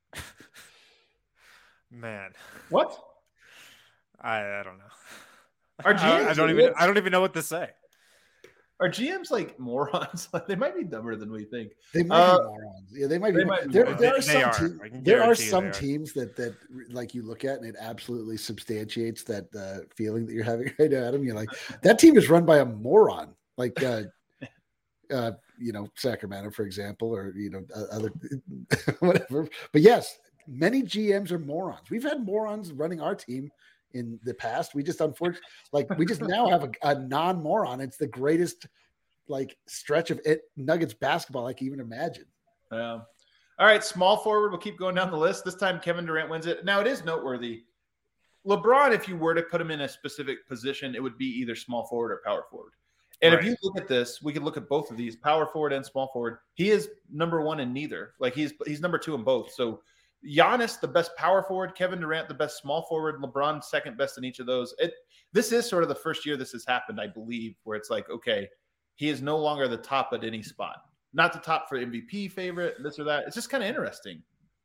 Man. What? I, I don't know. Our G Ms I, I don't even I don't even know what to say. Are G Ms like morons? Like they might be dumber than we think. They might uh, be morons. Yeah, they might be. They might be there, morons. there are They- some they are. teams. I can There are guarantee some they are. teams that that like you look at and it absolutely substantiates that uh, feeling that you're having right now, Adam. You're like, that team is run by a moron. Like, uh, uh, you know, Sacramento, for example, or you know, uh, other whatever. But yes, many G Ms are morons. We've had morons running our team in the past. We just unfortunately, like, we just now have a, a non-moron. It's the greatest like stretch of it Nuggets basketball I can even imagine. Um, all right, small forward. We'll keep going down the list. This time Kevin Durant wins it. Now it is noteworthy. LeBron, if you were to put him in a specific position, it would be either small forward or power forward. And Right. if you look at this, we could look at both of these, power forward and small forward. He is number one in neither. Like he's he's number two in both. So Giannis, the best power forward, Kevin Durant, the best small forward, LeBron, second best in each of those. It this is sort of the first year this has happened, I believe, where it's like, okay, he is no longer the top at any spot. Not the top for M V P favorite, this or that. It's just kind of interesting.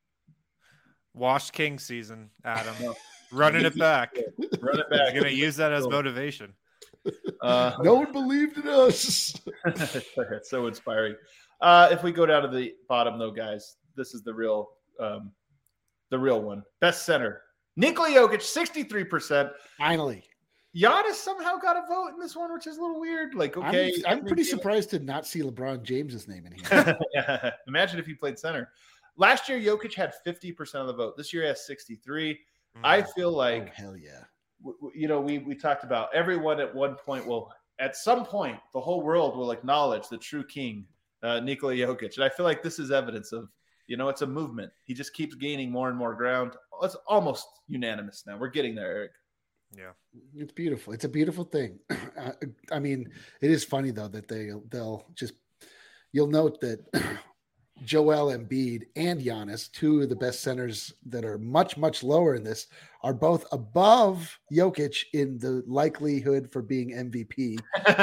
Wash King season, Adam. No. Running it back. Run it They're back. going to use that as Cool. motivation. Uh, No one believed in us. it's so inspiring. Uh, if we go down to the bottom, though, guys, this is the real, um, the real one. Best center, Nikola Jokic, sixty-three percent. Finally. Giannis somehow got a vote in this one, which is a little weird. Like, okay, I'm, I'm pretty maybe- surprised to not see LeBron James's name in here. Yeah. Imagine if he played center. Last year, Jokic had fifty percent of the vote. This year, he has sixty-three. I feel Oh, like, hell yeah. w- w- you know, we we talked about everyone at one point will, at some point, the whole world will acknowledge the true king, uh, Nikola Jokic. And I feel like this is evidence of, you know, it's a movement. He just keeps gaining more and more ground. It's almost unanimous now. We're getting there, Eric. Yeah. It's beautiful. It's a beautiful thing. Uh, I mean, it is funny though that they they'll just you'll note that Joel Embiid and Giannis, two of the best centers that are much much lower in this, are both above Jokic in the likelihood for being M V P.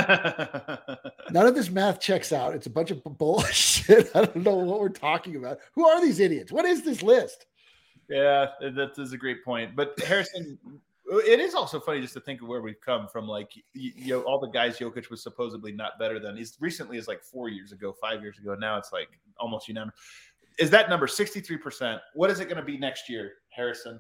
None of this math checks out. It's a bunch of bullshit. I don't know what we're talking about. Who are these idiots? What is this list? Yeah, that is a great point. But Harrison, it is also funny just to think of where we've come from. Like, you, you know, all the guys Jokic was supposedly not better than. He's recently is like four years ago, five years ago. Now it's like almost unanimous. Is that number sixty-three percent? What is it going to be next year, Harrison?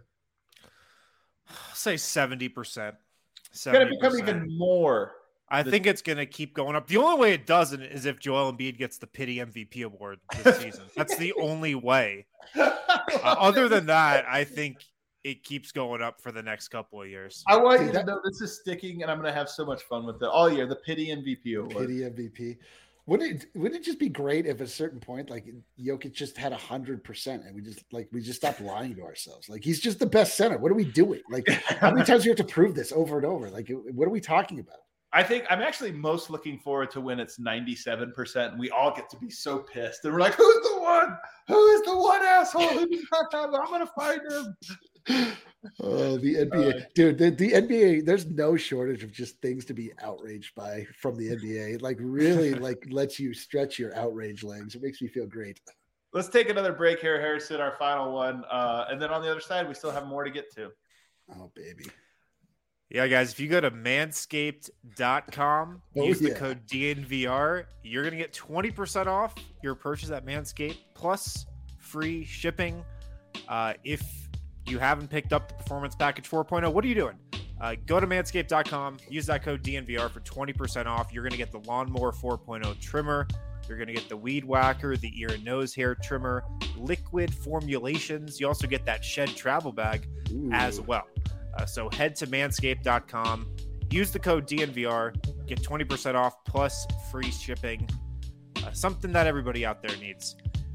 I'll say seventy percent. It's going to become even more. I think it's going to keep going up. The only way it doesn't is if Joel Embiid gets the pity M V P award this season. That's the only way. Uh, other than that, I think it keeps going up for the next couple of years. I want See, you that- to know this is sticking, and I'm going to have so much fun with it all year. The pity M V P award. Pity M V P. Wouldn't it, wouldn't it just be great if at a certain point, like Jokic just had a hundred percent and we just like, we just stopped lying to ourselves. Like he's just the best center. What are we doing? Like how many times do you have to prove this over and over? Like, what are we talking about? I think I'm actually most looking forward to when it's ninety-seven percent and we all get to be so pissed. And we're like, who's the one? Who is the one asshole who does not have it? I'm going to find him. Oh, the N B A. Uh, Dude, the, the N B A, there's no shortage of just things to be outraged by from the N B A. It like really like lets you stretch your outrage legs. It makes me feel great. Let's take another break here, Harrison, our final one. Uh, and then on the other side, we still have more to get to. Oh, baby. Yeah, guys, if you go to manscaped dot com, Oh, use the yeah. code D N V R, you're going to get twenty percent off your purchase at Manscaped, plus free shipping. Uh, if you haven't picked up the Performance Package four point oh, what are you doing? Uh, go to manscaped dot com, use that code D N V R for twenty percent off. You're going to get the Lawnmower four point oh trimmer. You're going to get the Weed Whacker, the ear and nose hair trimmer, liquid formulations. You also get that Shed travel bag Ooh. as well. Uh, so head to manscaped dot com, use the code D N V R, get twenty percent off plus free shipping. Uh, something that everybody out there needs.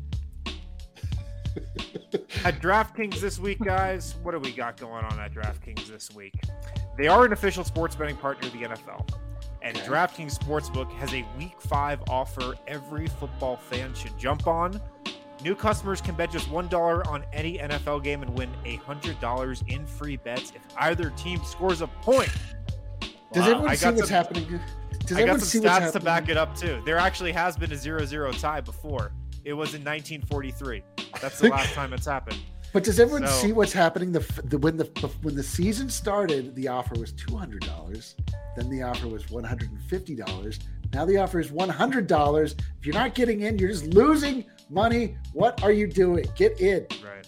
At DraftKings this week, guys, what do we got going on at DraftKings this week? They are an official sports betting partner of the N F L. And Okay. DraftKings Sportsbook has a Week five offer every football fan should jump on. New customers can bet just one dollar on any N F L game and win one hundred dollars in free bets if either team scores a point. Does Wow. everyone I see got what's some- happening? Does I everyone got see some what's stats to happening? back it up, too. There actually has been a zero zero tie before. It was in nineteen forty-three. That's the last time it's happened. But does everyone So- see what's happening? The, the when the when the season started, the offer was two hundred dollars. Then the offer was one hundred fifty dollars. Now the offer is one hundred dollars. If you're not getting in, you're just losing money. What are you doing? Get in. Right.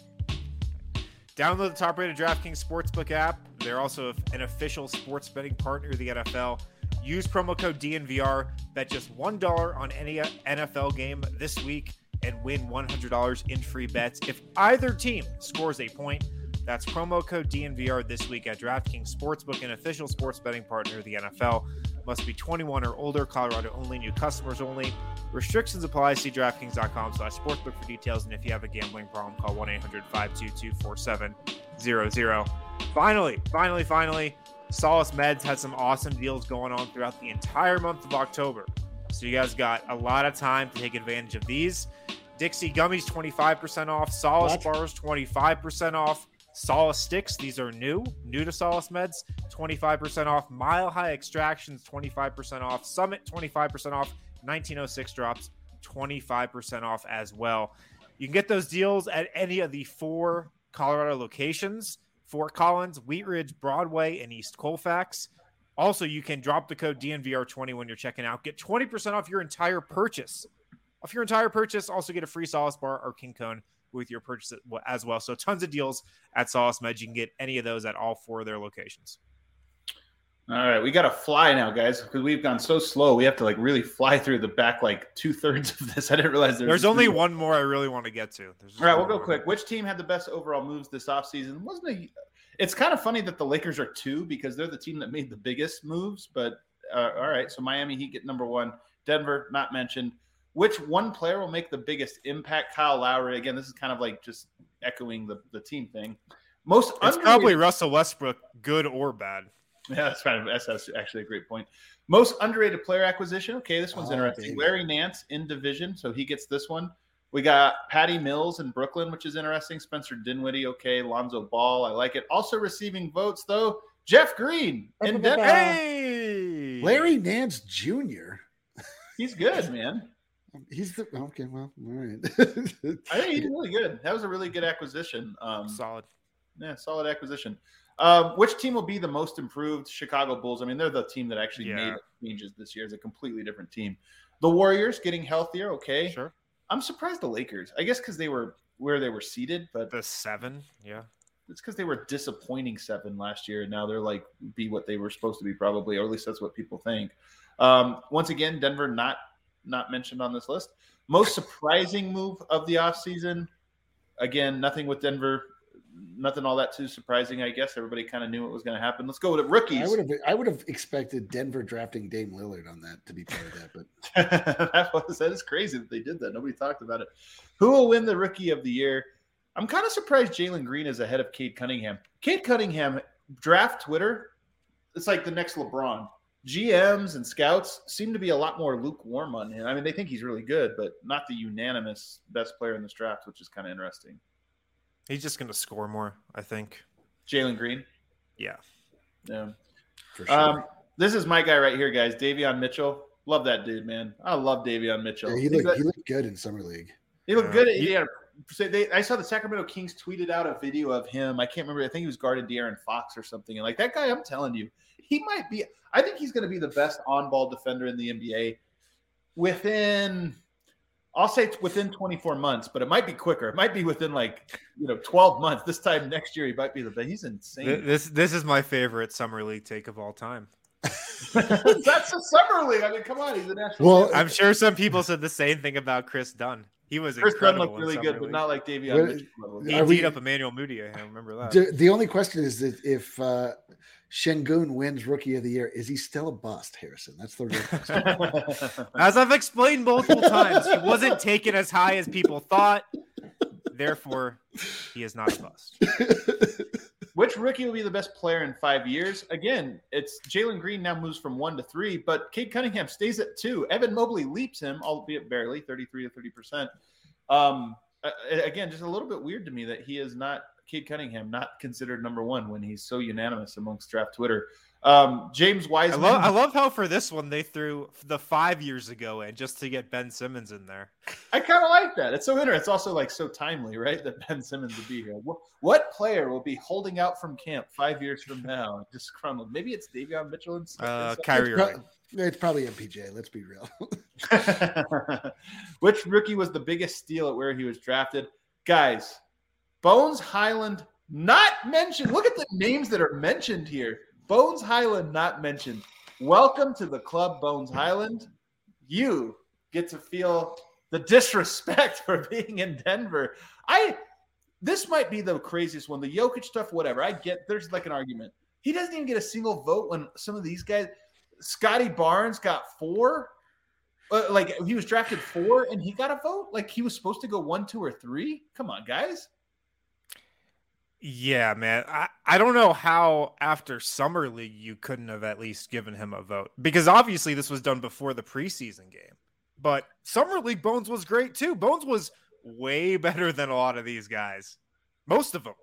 Download the top-rated DraftKings Sportsbook app. They're also an official sports betting partner of the N F L. Use promo code D N V R. Bet just one dollar on any N F L game this week and win one hundred dollars in free bets if either team scores a point. That's promo code D N V R this week at DraftKings Sportsbook, an official sports betting partner of the N F L. Must be twenty-one or older. Colorado only. New customers only. Restrictions apply. See DraftKings.com slash sportsbook for details. And if you have a gambling problem, call one eight hundred five two two four seven zero zero. Finally, finally, finally, Solace Meds had some awesome deals going on throughout the entire month of October. So you guys got a lot of time to take advantage of these. Dixie Gummies twenty-five percent off. Solace What? Bars twenty-five percent off. Solace Sticks, these are new, new to Solace Meds, twenty-five percent off. Mile High Extractions, twenty-five percent off. Summit, twenty-five percent off. nineteen oh six drops, twenty-five percent off as well. You can get those deals at any of the four Colorado locations: Fort Collins, Wheat Ridge, Broadway, and East Colfax. Also, you can drop the code D N V R twenty when you're checking out. Get twenty percent off your entire purchase. Off your entire purchase, also get a free Solace Bar or King Cone with your purchase as well. So tons of deals at Solace Meds. You can get any of those at all four of their locations. All right, we got to fly now, guys, because we've gone so slow. We have to like really fly through the back like two thirds of this. I didn't realize there was There's only one more I really want to get to. There's All right, we'll one go more. quick. Which team had the best overall moves this offseason? Wasn't a, It's kind of funny that the Lakers are two because they're the team that made the biggest moves. But uh, all right, so Miami Heat get number one. Denver, not mentioned. Which one player will make the biggest impact? Kyle Lowry. Again, this is kind of like just echoing the, the team thing. Most It's underrated- probably Russell Westbrook, good or bad. Yeah, that's kind of that's actually a great point. Most underrated player acquisition. Okay, this one's Oh, interesting. baby. Larry Nance in division, so he gets this one. We got Patty Mills in Brooklyn, which is interesting. Spencer Dinwiddie, okay. Lonzo Ball, I like it. Also receiving votes though, Jeff Green in Denver. Hey, Larry Nance Junior He's good, man. He's the okay. Well, all right. I think he's really good. That was a really good acquisition. Um, solid. Yeah, solid acquisition. Um, which team will be the most improved? Chicago Bulls. I mean, they're the team that actually Yeah. made changes this year. It's a completely different team. The Warriors getting healthier. Okay. Sure. I'm surprised the Lakers. I guess because they were where they were seated, but The seven, yeah. it's because they were disappointing seven last year. And now they're like be what they were supposed to be probably, or at least that's what people think. Um, once again, Denver not not mentioned on this list. Most surprising move of the offseason. Again, nothing with Denver. Nothing all that too surprising, I guess. Everybody kind of knew what was going to happen. Let's go with rookies. I would have I would have expected Denver drafting Dame Lillard on that to be part of that, but that, was, that is crazy that they did that. Nobody talked about it. Who will win the rookie of the year? I'm kind of surprised Jalen Green is ahead of Cade Cunningham. Cade Cunningham, draft Twitter, it's like the next LeBron. G Ms and scouts seem to be a lot more lukewarm on him. I mean, they think he's really good, but not the unanimous best player in this draft, which is kind of interesting. He's just going to score more, I think. Jalen Green. Yeah. Yeah. for sure. Um, this is my guy right here, guys. Davion Mitchell. Love that dude, man. I love Davion Mitchell. Yeah, he He's looked a- he looked good in summer league. He looked Yeah. good. He had a, so they, I saw the Sacramento Kings tweeted out a video of him. I can't remember. I think he was guarding De'Aaron Fox or something. And like that guy, I'm telling you, he might be. I think he's going to be the best on-ball defender in the N B A within. I'll say it's within twenty-four months, but it might be quicker. It might be within like you know twelve months. This time next year, he might be the best. He's insane. Th- This this is my favorite summer league take of all time. That's a summer league. I mean, come on, he's a national. Well, champion. I'm sure some people said the same thing about Chris Dunn. He was Chris Dunn incredible looked in really summer good, but league. not like Davion Well, Mitchell. level. He Are we- beat up Emmanuel Mudiay. I remember that. the, the only question is that if uh, Şengün wins Rookie of the Year, is he still a bust, Harrison? That's the real question. As I've explained multiple times, he wasn't taken as high as people thought. Therefore, he is not a bust. which rookie will be the best player in five years? Again, it's Jalen Green now moves from one to three, but Cade Cunningham stays at two. Evan Mobley leaps him, albeit barely, thirty-three to thirty percent. Um, again, just a little bit weird to me that he is not Cade Cunningham, not considered number one when he's so unanimous amongst draft Twitter. Um, James Wiseman. I love, I love how for this one they threw the five years ago in just to get Ben Simmons in there. I kind of like that. It's so interesting. It's also like so timely, right? That Ben Simmons would be here. What, what player will be holding out from camp five years from now? Just crumbled. Maybe it's Davion Mitchell and uh, Kyrie it's, Irving. pro- it's probably M P J. Let's be real. Which rookie was the biggest steal at where he was drafted? Guys, Bones Highland not mentioned. Look at the names that are mentioned here. Bones Highland not mentioned. Welcome to the club, Bones Highland. You get to feel the disrespect for being in Denver. I this might be the craziest one. The Jokic stuff, whatever. I get there's like an argument. He doesn't even get a single vote when some of these guys. Scotty Barnes got four. Uh, like he was drafted four and he got a vote. Like he was supposed to go one, two, or three. Come on, guys. Yeah, man. I, I don't know how after Summer League you couldn't have at least given him a vote. Because obviously this was done before the preseason game. But Summer League Bones was great too. Bones was way better than a lot of these guys. Most of them.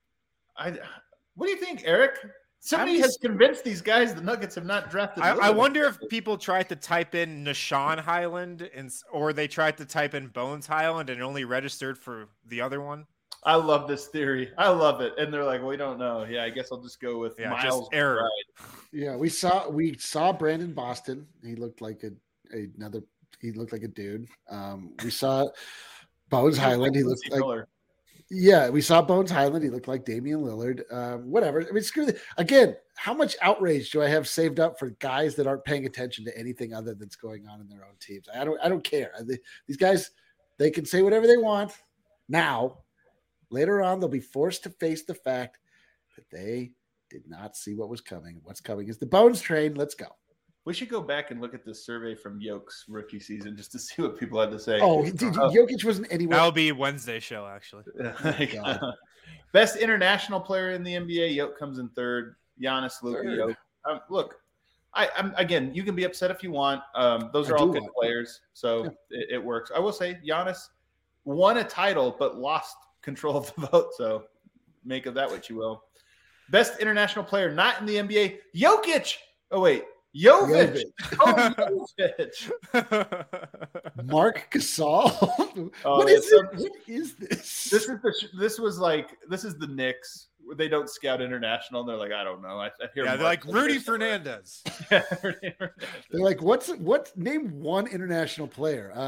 I, what do you think, Eric? Somebody just, has convinced these guys the Nuggets have not drafted. I, I wonder if people tried to type in Nashawn Highland and, or they tried to type in Bones Highland and only registered for the other one. I love this theory. I love it. And they're like, we don't know. Yeah, I guess I'll just go with yeah, Miles. Error. Yeah, we saw we saw Brandon Boston. He looked like a, a another. He looked like a dude. Um, we saw Bones Highland. He looked like. Miller. Yeah, we saw Bones Highland. He looked like Damian Lillard. Um, whatever. I mean, screw the, again. How much outrage do I have saved up for guys that aren't paying attention to anything other that's going on in their own teams? I don't. I don't care. These guys, they can say whatever they want now. Later on, they'll be forced to face the fact that they did not see what was coming. What's coming is the Bones train. Let's go. We should go back and look at this survey from Yoke's rookie season just to see what people had to say. Oh, did, uh, Jokic wasn't anywhere. That'll be Wednesday show, actually. Oh, best international player in the N B A. Yoke comes in third. Giannis, Luka, Yoke. Um, look, I, I'm again. You can be upset if you want. Um, those are I all good want. players, so yeah. it, it works. I will say Giannis won a title, but lost control of the vote, so make of that what you will. Best international player not in the N B A, Jokic. Oh wait, Jovic. Oh, Jovic. Mark Gasol. Oh, what is it? What is this? This is the. This was like. This is the Knicks. They don't scout international. And they're like, I don't know. I, I hear. Yeah, they're like Rudy Fernandez. yeah, Rudy Fernandez. They're like, what's what? Name one international player. Uh,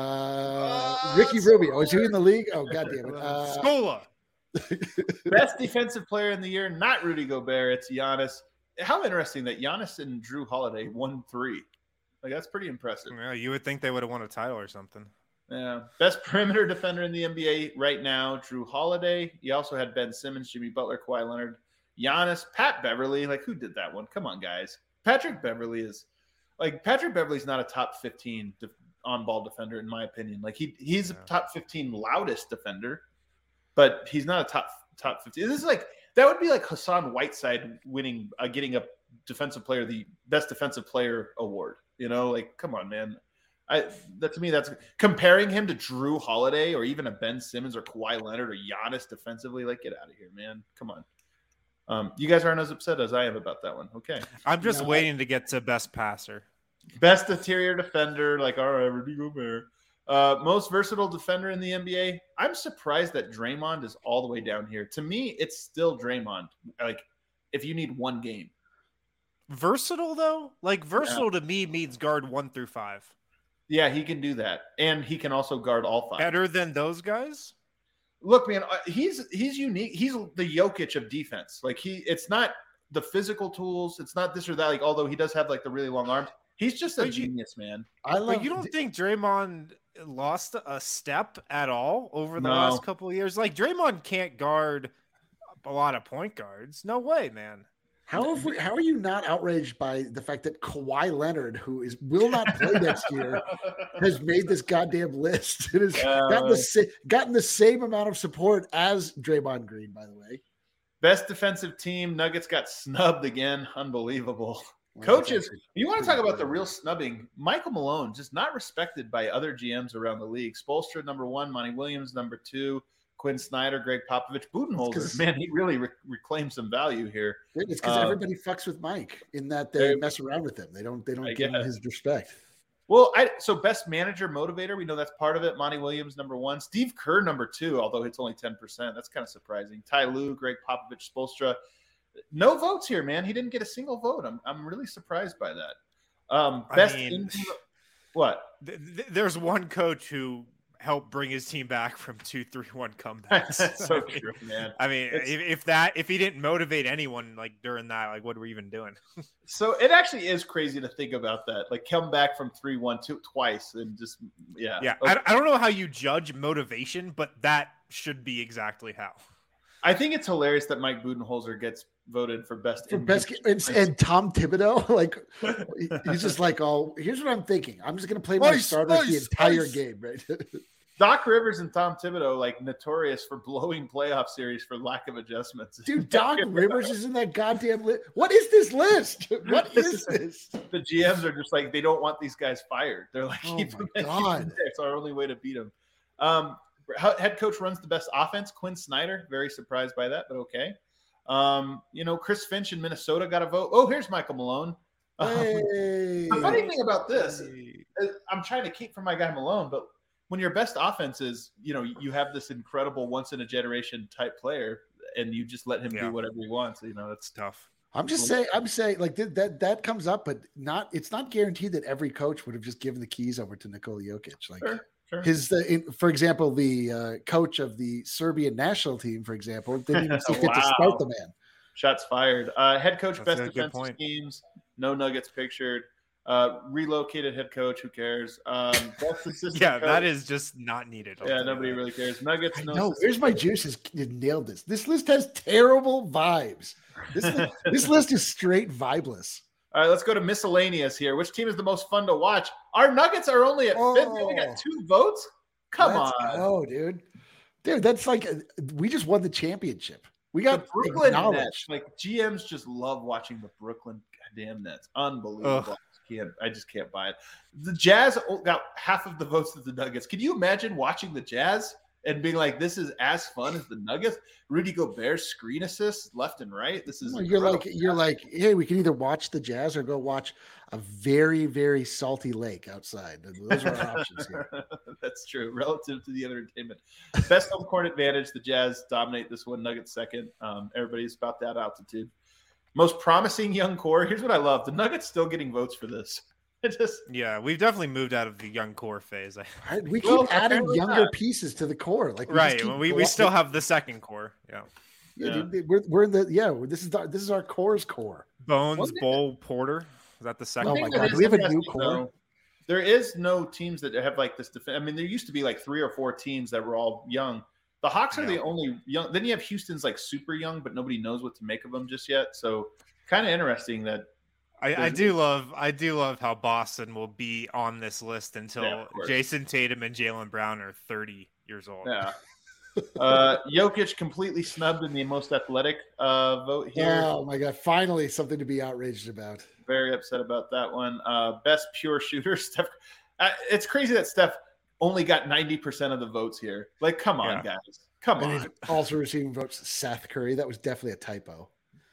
uh Ricky Rubio. Is he in the league? Oh, god damn it. Uh, Scola. Best defensive player in the year, not Rudy Gobert. It's Giannis. How interesting that Giannis and Drew Holiday won three. Like that's pretty impressive. Yeah, you would think they would have won a title or something. Yeah. Best perimeter defender in the N B A right now, Drew Holiday. You also had Ben Simmons, Jimmy Butler, Kawhi Leonard, Giannis, Pat Beverly. Like, who did that one? Come on, guys. Patrick Beverly is like Patrick Beverly's not a top fifteen de- on-ball defender, in my opinion. Like he he's yeah. a top fifteen loudest defender, but he's not a top top fifteen. This is like that would be like Hassan Whiteside winning, uh, getting a defensive player, the best defensive player award. You know, like come on, man. I that to me that's comparing him to Drew Holiday or even a Ben Simmons or Kawhi Leonard or Giannis defensively. Like, get out of here, man. Come on. Um, you guys aren't as upset as I am about that one. Okay. I'm just no, waiting I, to get to best passer. Best interior defender, like all right, Rudy Gobert. Uh, most versatile defender in the N B A. I'm surprised that Draymond is all the way down here. To me, it's still Draymond. Like, if you need one game. Versatile though, like versatile yeah. to me means guard one through five. Yeah, he can do that, and he can also guard all five. Better than those guys. Look, man, he's he's unique. He's the Jokic of defense. Like he, it's not the physical tools. It's not this or that. Like although he does have like the really long arms, he's just a but genius, you, man. I love. But you don't d- think Draymond lost a step at all over the no. last couple of years? Like Draymond can't guard a lot of point guards. No way, man. How have we, how are you not outraged by the fact that Kawhi Leonard, who is will not play next year, has made this goddamn list and has uh, gotten, the, gotten the same amount of support as Draymond Green, by the way? Best defensive team, Nuggets got snubbed again. Unbelievable. Well, Coaches, you want to talk about the real snubbing? Michael Malone, just not respected by other G Ms around the league. Spoelstra, number one. Monty Williams, number two. Quinn Snyder, Greg Popovich, Budenholzer. Man, he really re- reclaimed some value here. It's because uh, everybody fucks with Mike in that they mess around with him. They don't. They don't I give guess. him his respect. Well, I so best manager motivator, we know that's part of it. Monty Williams, number one. Steve Kerr, number two, although it's only ten percent. That's kind of surprising. Ty Lue, Greg Popovich, Spoelstra. No votes here, man. He didn't get a single vote. I'm I'm really surprised by that. Um, best I mean, in- what? Th- th- there's one coach who helped bring his team back from two three one comebacks. so I mean, true, man. I mean, if, if that if he didn't motivate anyone like during that, like what are we even doing? So it actually is crazy to think about that. Like come back from three one two twice and just yeah. Yeah. Okay. I, I don't know how you judge motivation, but that should be exactly how. I think it's hilarious that Mike Budenholzer gets voted for best for best and, and Tom Thibodeau, like he's just like, oh, here's what I'm thinking. I'm just gonna play my ice, starters ice, the entire ice. game, right? Doc Rivers and Tom Thibodeau, like notorious for blowing playoff series for lack of adjustments. Dude, Doc Rivers is in that goddamn list. What is this list? What is this? The G Ms are just like, they don't want these guys fired. They're like, oh keep my them God. in. It's our only way to beat them. Um, head coach runs the best offense. Quinn Snyder, very surprised by that, but okay. Um, you know, Chris Finch in Minnesota got a vote. Oh, here's Michael Malone. Hey. Um, the funny thing about this, is I'm trying to keep from my guy Malone, but when your best offense is, you know, you have this incredible once in a generation type player and you just let him yeah. do whatever he wants, you know, that's tough. I'm just saying, I'm saying like that, that, that comes up, but not, it's not guaranteed that every coach would have just given the keys over to Nikola Jokic. Like sure, sure. his, uh, in, for example, the uh, coach of the Serbian national team, for example, didn't even get wow. to start the man. Shots fired. Uh, head coach, That's best defensive schemes, no Nuggets pictured. Uh, relocated head coach, who cares? Um, best assistant yeah, coach. that is just not needed. Yeah, nobody really cares. Nuggets, I no. know. Where's my juices? You nailed this. This list has terrible vibes. This list, this list is straight vibeless. All right, let's go to miscellaneous here. Which team is the most fun to watch? Our Nuggets are only at oh, fifth. We got two votes. Come let's on, oh, dude, dude, that's like a, we just won the championship. We got the Brooklyn acknowledged. Nets. Like G Ms just love watching the Brooklyn goddamn Nets. Unbelievable. Ugh. Can't, I just can't buy it. The Jazz got half of the votes of the Nuggets. Can you imagine watching the Jazz and being like, this is as fun as the Nuggets? Rudy Gobert screen assists left and right. This is well, you're like you're like, hey, we can either watch the Jazz or go watch a very, very salty lake outside. Those are our options here. That's true. Relative to the other entertainment. Best home court advantage. The Jazz dominate this one. Nuggets second. Um, everybody's about that altitude. Most promising young core. Here's what I love. The Nuggets still getting votes for this. It just yeah, we've definitely moved out of the young core phase. I, we keep Well, adding younger not. pieces to the core. Like we right, just well, we, we still have the second core. Yeah, yeah, Yeah. dude, we're we're in the yeah. This is our, this is our core's core. Bones, One thing Bowl, Porter. Is that the second? Oh One my thing that God, is do we have a new interesting, core? though, there is no teams that have like this. Def- I mean, there used to be like three or four teams that were all young. The Hawks are Yeah. the only young. Then you have Houston's like super young, but nobody knows what to make of them just yet. So kind of interesting that. I, I do love I do love how Boston will be on this list until Yeah, of course. Jason Tatum and Jaylen Brown are thirty years old. Yeah. Uh, Jokic completely snubbed in the most athletic uh, vote here. Oh my God! Finally, something to be outraged about. Very upset about that one. Uh, best pure shooter, Steph. Uh, it's crazy that Steph only got ninety percent of the votes here. Like, come on, Yeah. guys. Come And on. he's also receiving votes. Seth Curry. That was definitely a typo.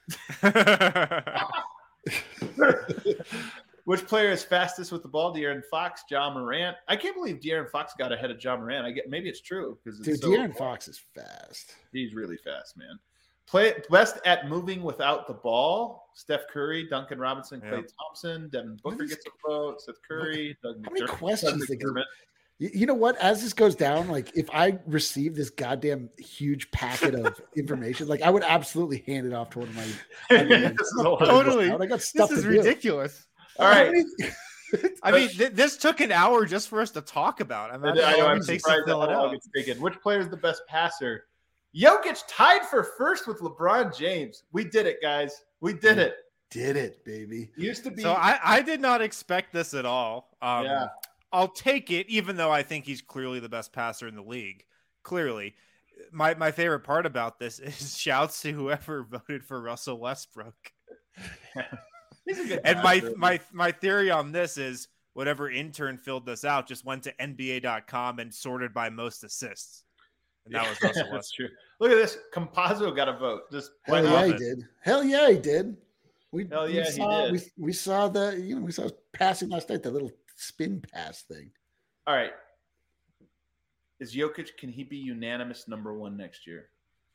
Which player is fastest with the ball? De'Aaron Fox, John Morant. I can't believe De'Aaron Fox got ahead of John Morant. I get maybe it's true because Dude, so, De'Aaron Fox is fast. he's really fast, man. Play best at moving without the ball. Steph Curry, Duncan Robinson, Klay Yeah. Thompson, Devin Booker What is- gets a vote. Seth Curry, Doug How many McDermott. questions Doug they give- McDermott. You, you know what? As this goes down, like if I receive this goddamn huge packet of information, like I would absolutely hand it off to one of my. This is a lot. Totally. I got This stuff is to do. ridiculous. All right. How many- I mean, th- this took an hour just for us to talk about. I, mean, I know, I'm it takes to surprised fill that it how long out. it's taken. Which player is the best passer? Jokic tied for first with LeBron James. We did it, guys. We did it. Did it, baby? Used to be. So I, I did not expect this at all. Um, Yeah. I'll take it, even though I think he's clearly the best passer in the league. Clearly, my my favorite part about this is shouts to whoever voted for Russell Westbrook. He's a good And guy, my really. my my theory on this is whatever intern filled this out just went to N B A dot com and sorted by most assists. And that was Russell That's Westbrook. true. Look at this. Compazzo got a vote. Just Hell why yeah, not? he it. did. Hell yeah, he did. We, Hell we yeah, he saw, did. We, we saw the, you know, we saw passing last night, that little spin pass thing. All right. Is Jokic, can he be unanimous number one next year?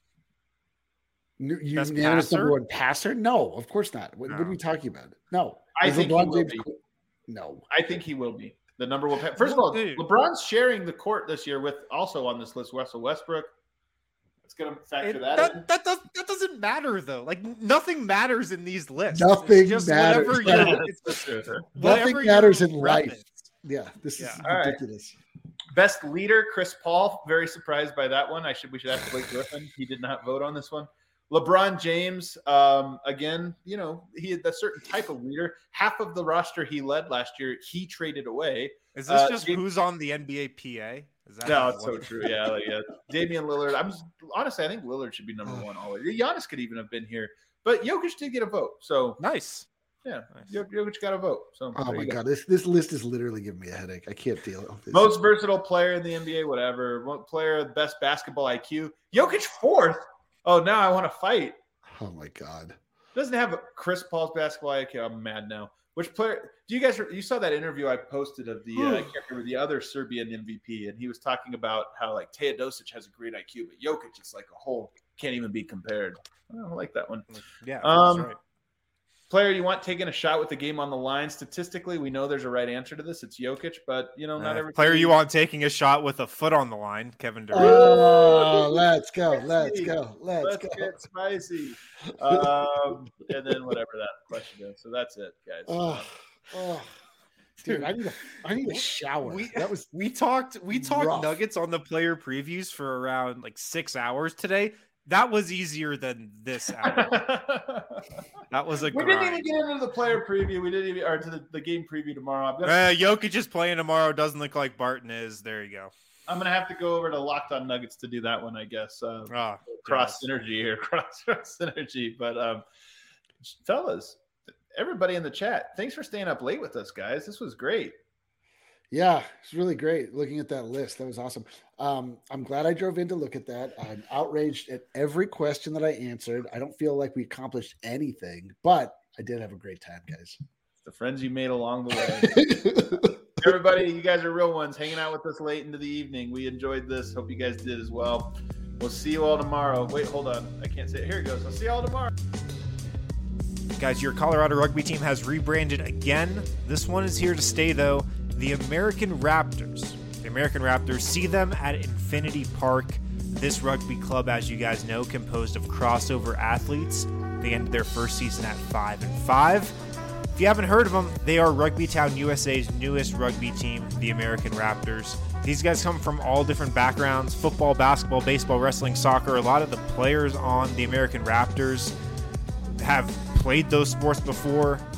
You Best unanimous passer? number one passer? No, of course not. What, what are No. we talking about? No. I Is think he LeBron will James be. qu- No. I think he will be the number one. Pa- First of all, Dude. LeBron's sharing the court this year with also on this list Russell Westbrook. It's going to factor It- that, that, in. that, does, that doesn't matter though. Like nothing matters in these lists. Nothing it's just matters. Whatever you're, it's Nothing whatever matters your in life. reference. Yeah, this Yeah. is All right. ridiculous. Best leader, Chris Paul. Very surprised by that one. I should we should ask Blake Griffin. He did not vote on this one. LeBron James, um, again, you know, he had a certain type of leader. Half of the roster he led last year, he traded away. Is this Uh, just James- who's on the N B A P A? Is that No, how it's so works? true. Yeah, like, yeah. Damian Lillard. I'm just, honestly, I think Lillard should be number one always. Giannis could even have been here, but Jokic did get a vote. So Nice. yeah, Nice. Jok- Jokic got a vote. So Oh there my you go. god, this this list is literally giving me a headache. I can't deal with this. Most versatile player in the N B A, whatever. What player, best basketball I Q. Jokic fourth. Oh, now I want to fight. Oh my god. Doesn't have Chris Paul's basketball I Q. I'm mad now. Which player? Do you guys? You saw that interview I posted of the uh, I can't remember the other Serbian M V P, and he was talking about how like Teodosic has a great I Q, but Jokic is like a whole can't even be compared. I don't like that one. Yeah, Um, that's right. Player you want taking a shot with the game on the line? Statistically, we know there's a right answer to this. It's Jokic, but you know not Uh, every player you want taking a shot with a foot on the line, Kevin Durant. Oh, let's go. Let's go. Let's, Let's go. get spicy. Um, and then whatever that question is. So that's it, guys. Oh, oh. Dude, I need a I need a shower. We, that was we talked we talked rough. Nuggets on the player previews for around like six hours today. That was easier than this hour. That was a we didn't even grind. get into the player preview. We didn't even, or to the, the game preview tomorrow. I'm gonna, Uh, Jokic is playing tomorrow. Doesn't look like Barton is. There you go. I'm gonna have to go over to Locked On Nuggets to do that one, I guess. Uh, Ah, cross jealous. synergy here, cross synergy. But um, fellas, everybody in the chat, thanks for staying up late with us, guys. This was great. Yeah, it's really great looking at that list. That was awesome. Um, I'm glad I drove in to look at that. I'm outraged at every question that I answered. I don't feel like we accomplished anything, but I did have a great time, guys. The friends you made along the way. Everybody, you guys are real ones hanging out with us late into the evening. We enjoyed this. Hope you guys did as well. We'll see you all tomorrow. Wait, hold on. I can't say it. Here it goes. I'll see you all tomorrow. Guys, your Colorado rugby team has rebranded again. This one is here to stay, though. The American Raptors. The American Raptors, see them at Infinity Park. This rugby club, as you guys know, composed of crossover athletes. They ended their first season at five and five. If you haven't heard of them, they are Rugby Town U S A's newest rugby team, the American Raptors. These guys come from all different backgrounds: football, basketball, baseball, wrestling, soccer. A lot of the players on the American Raptors have played those sports before.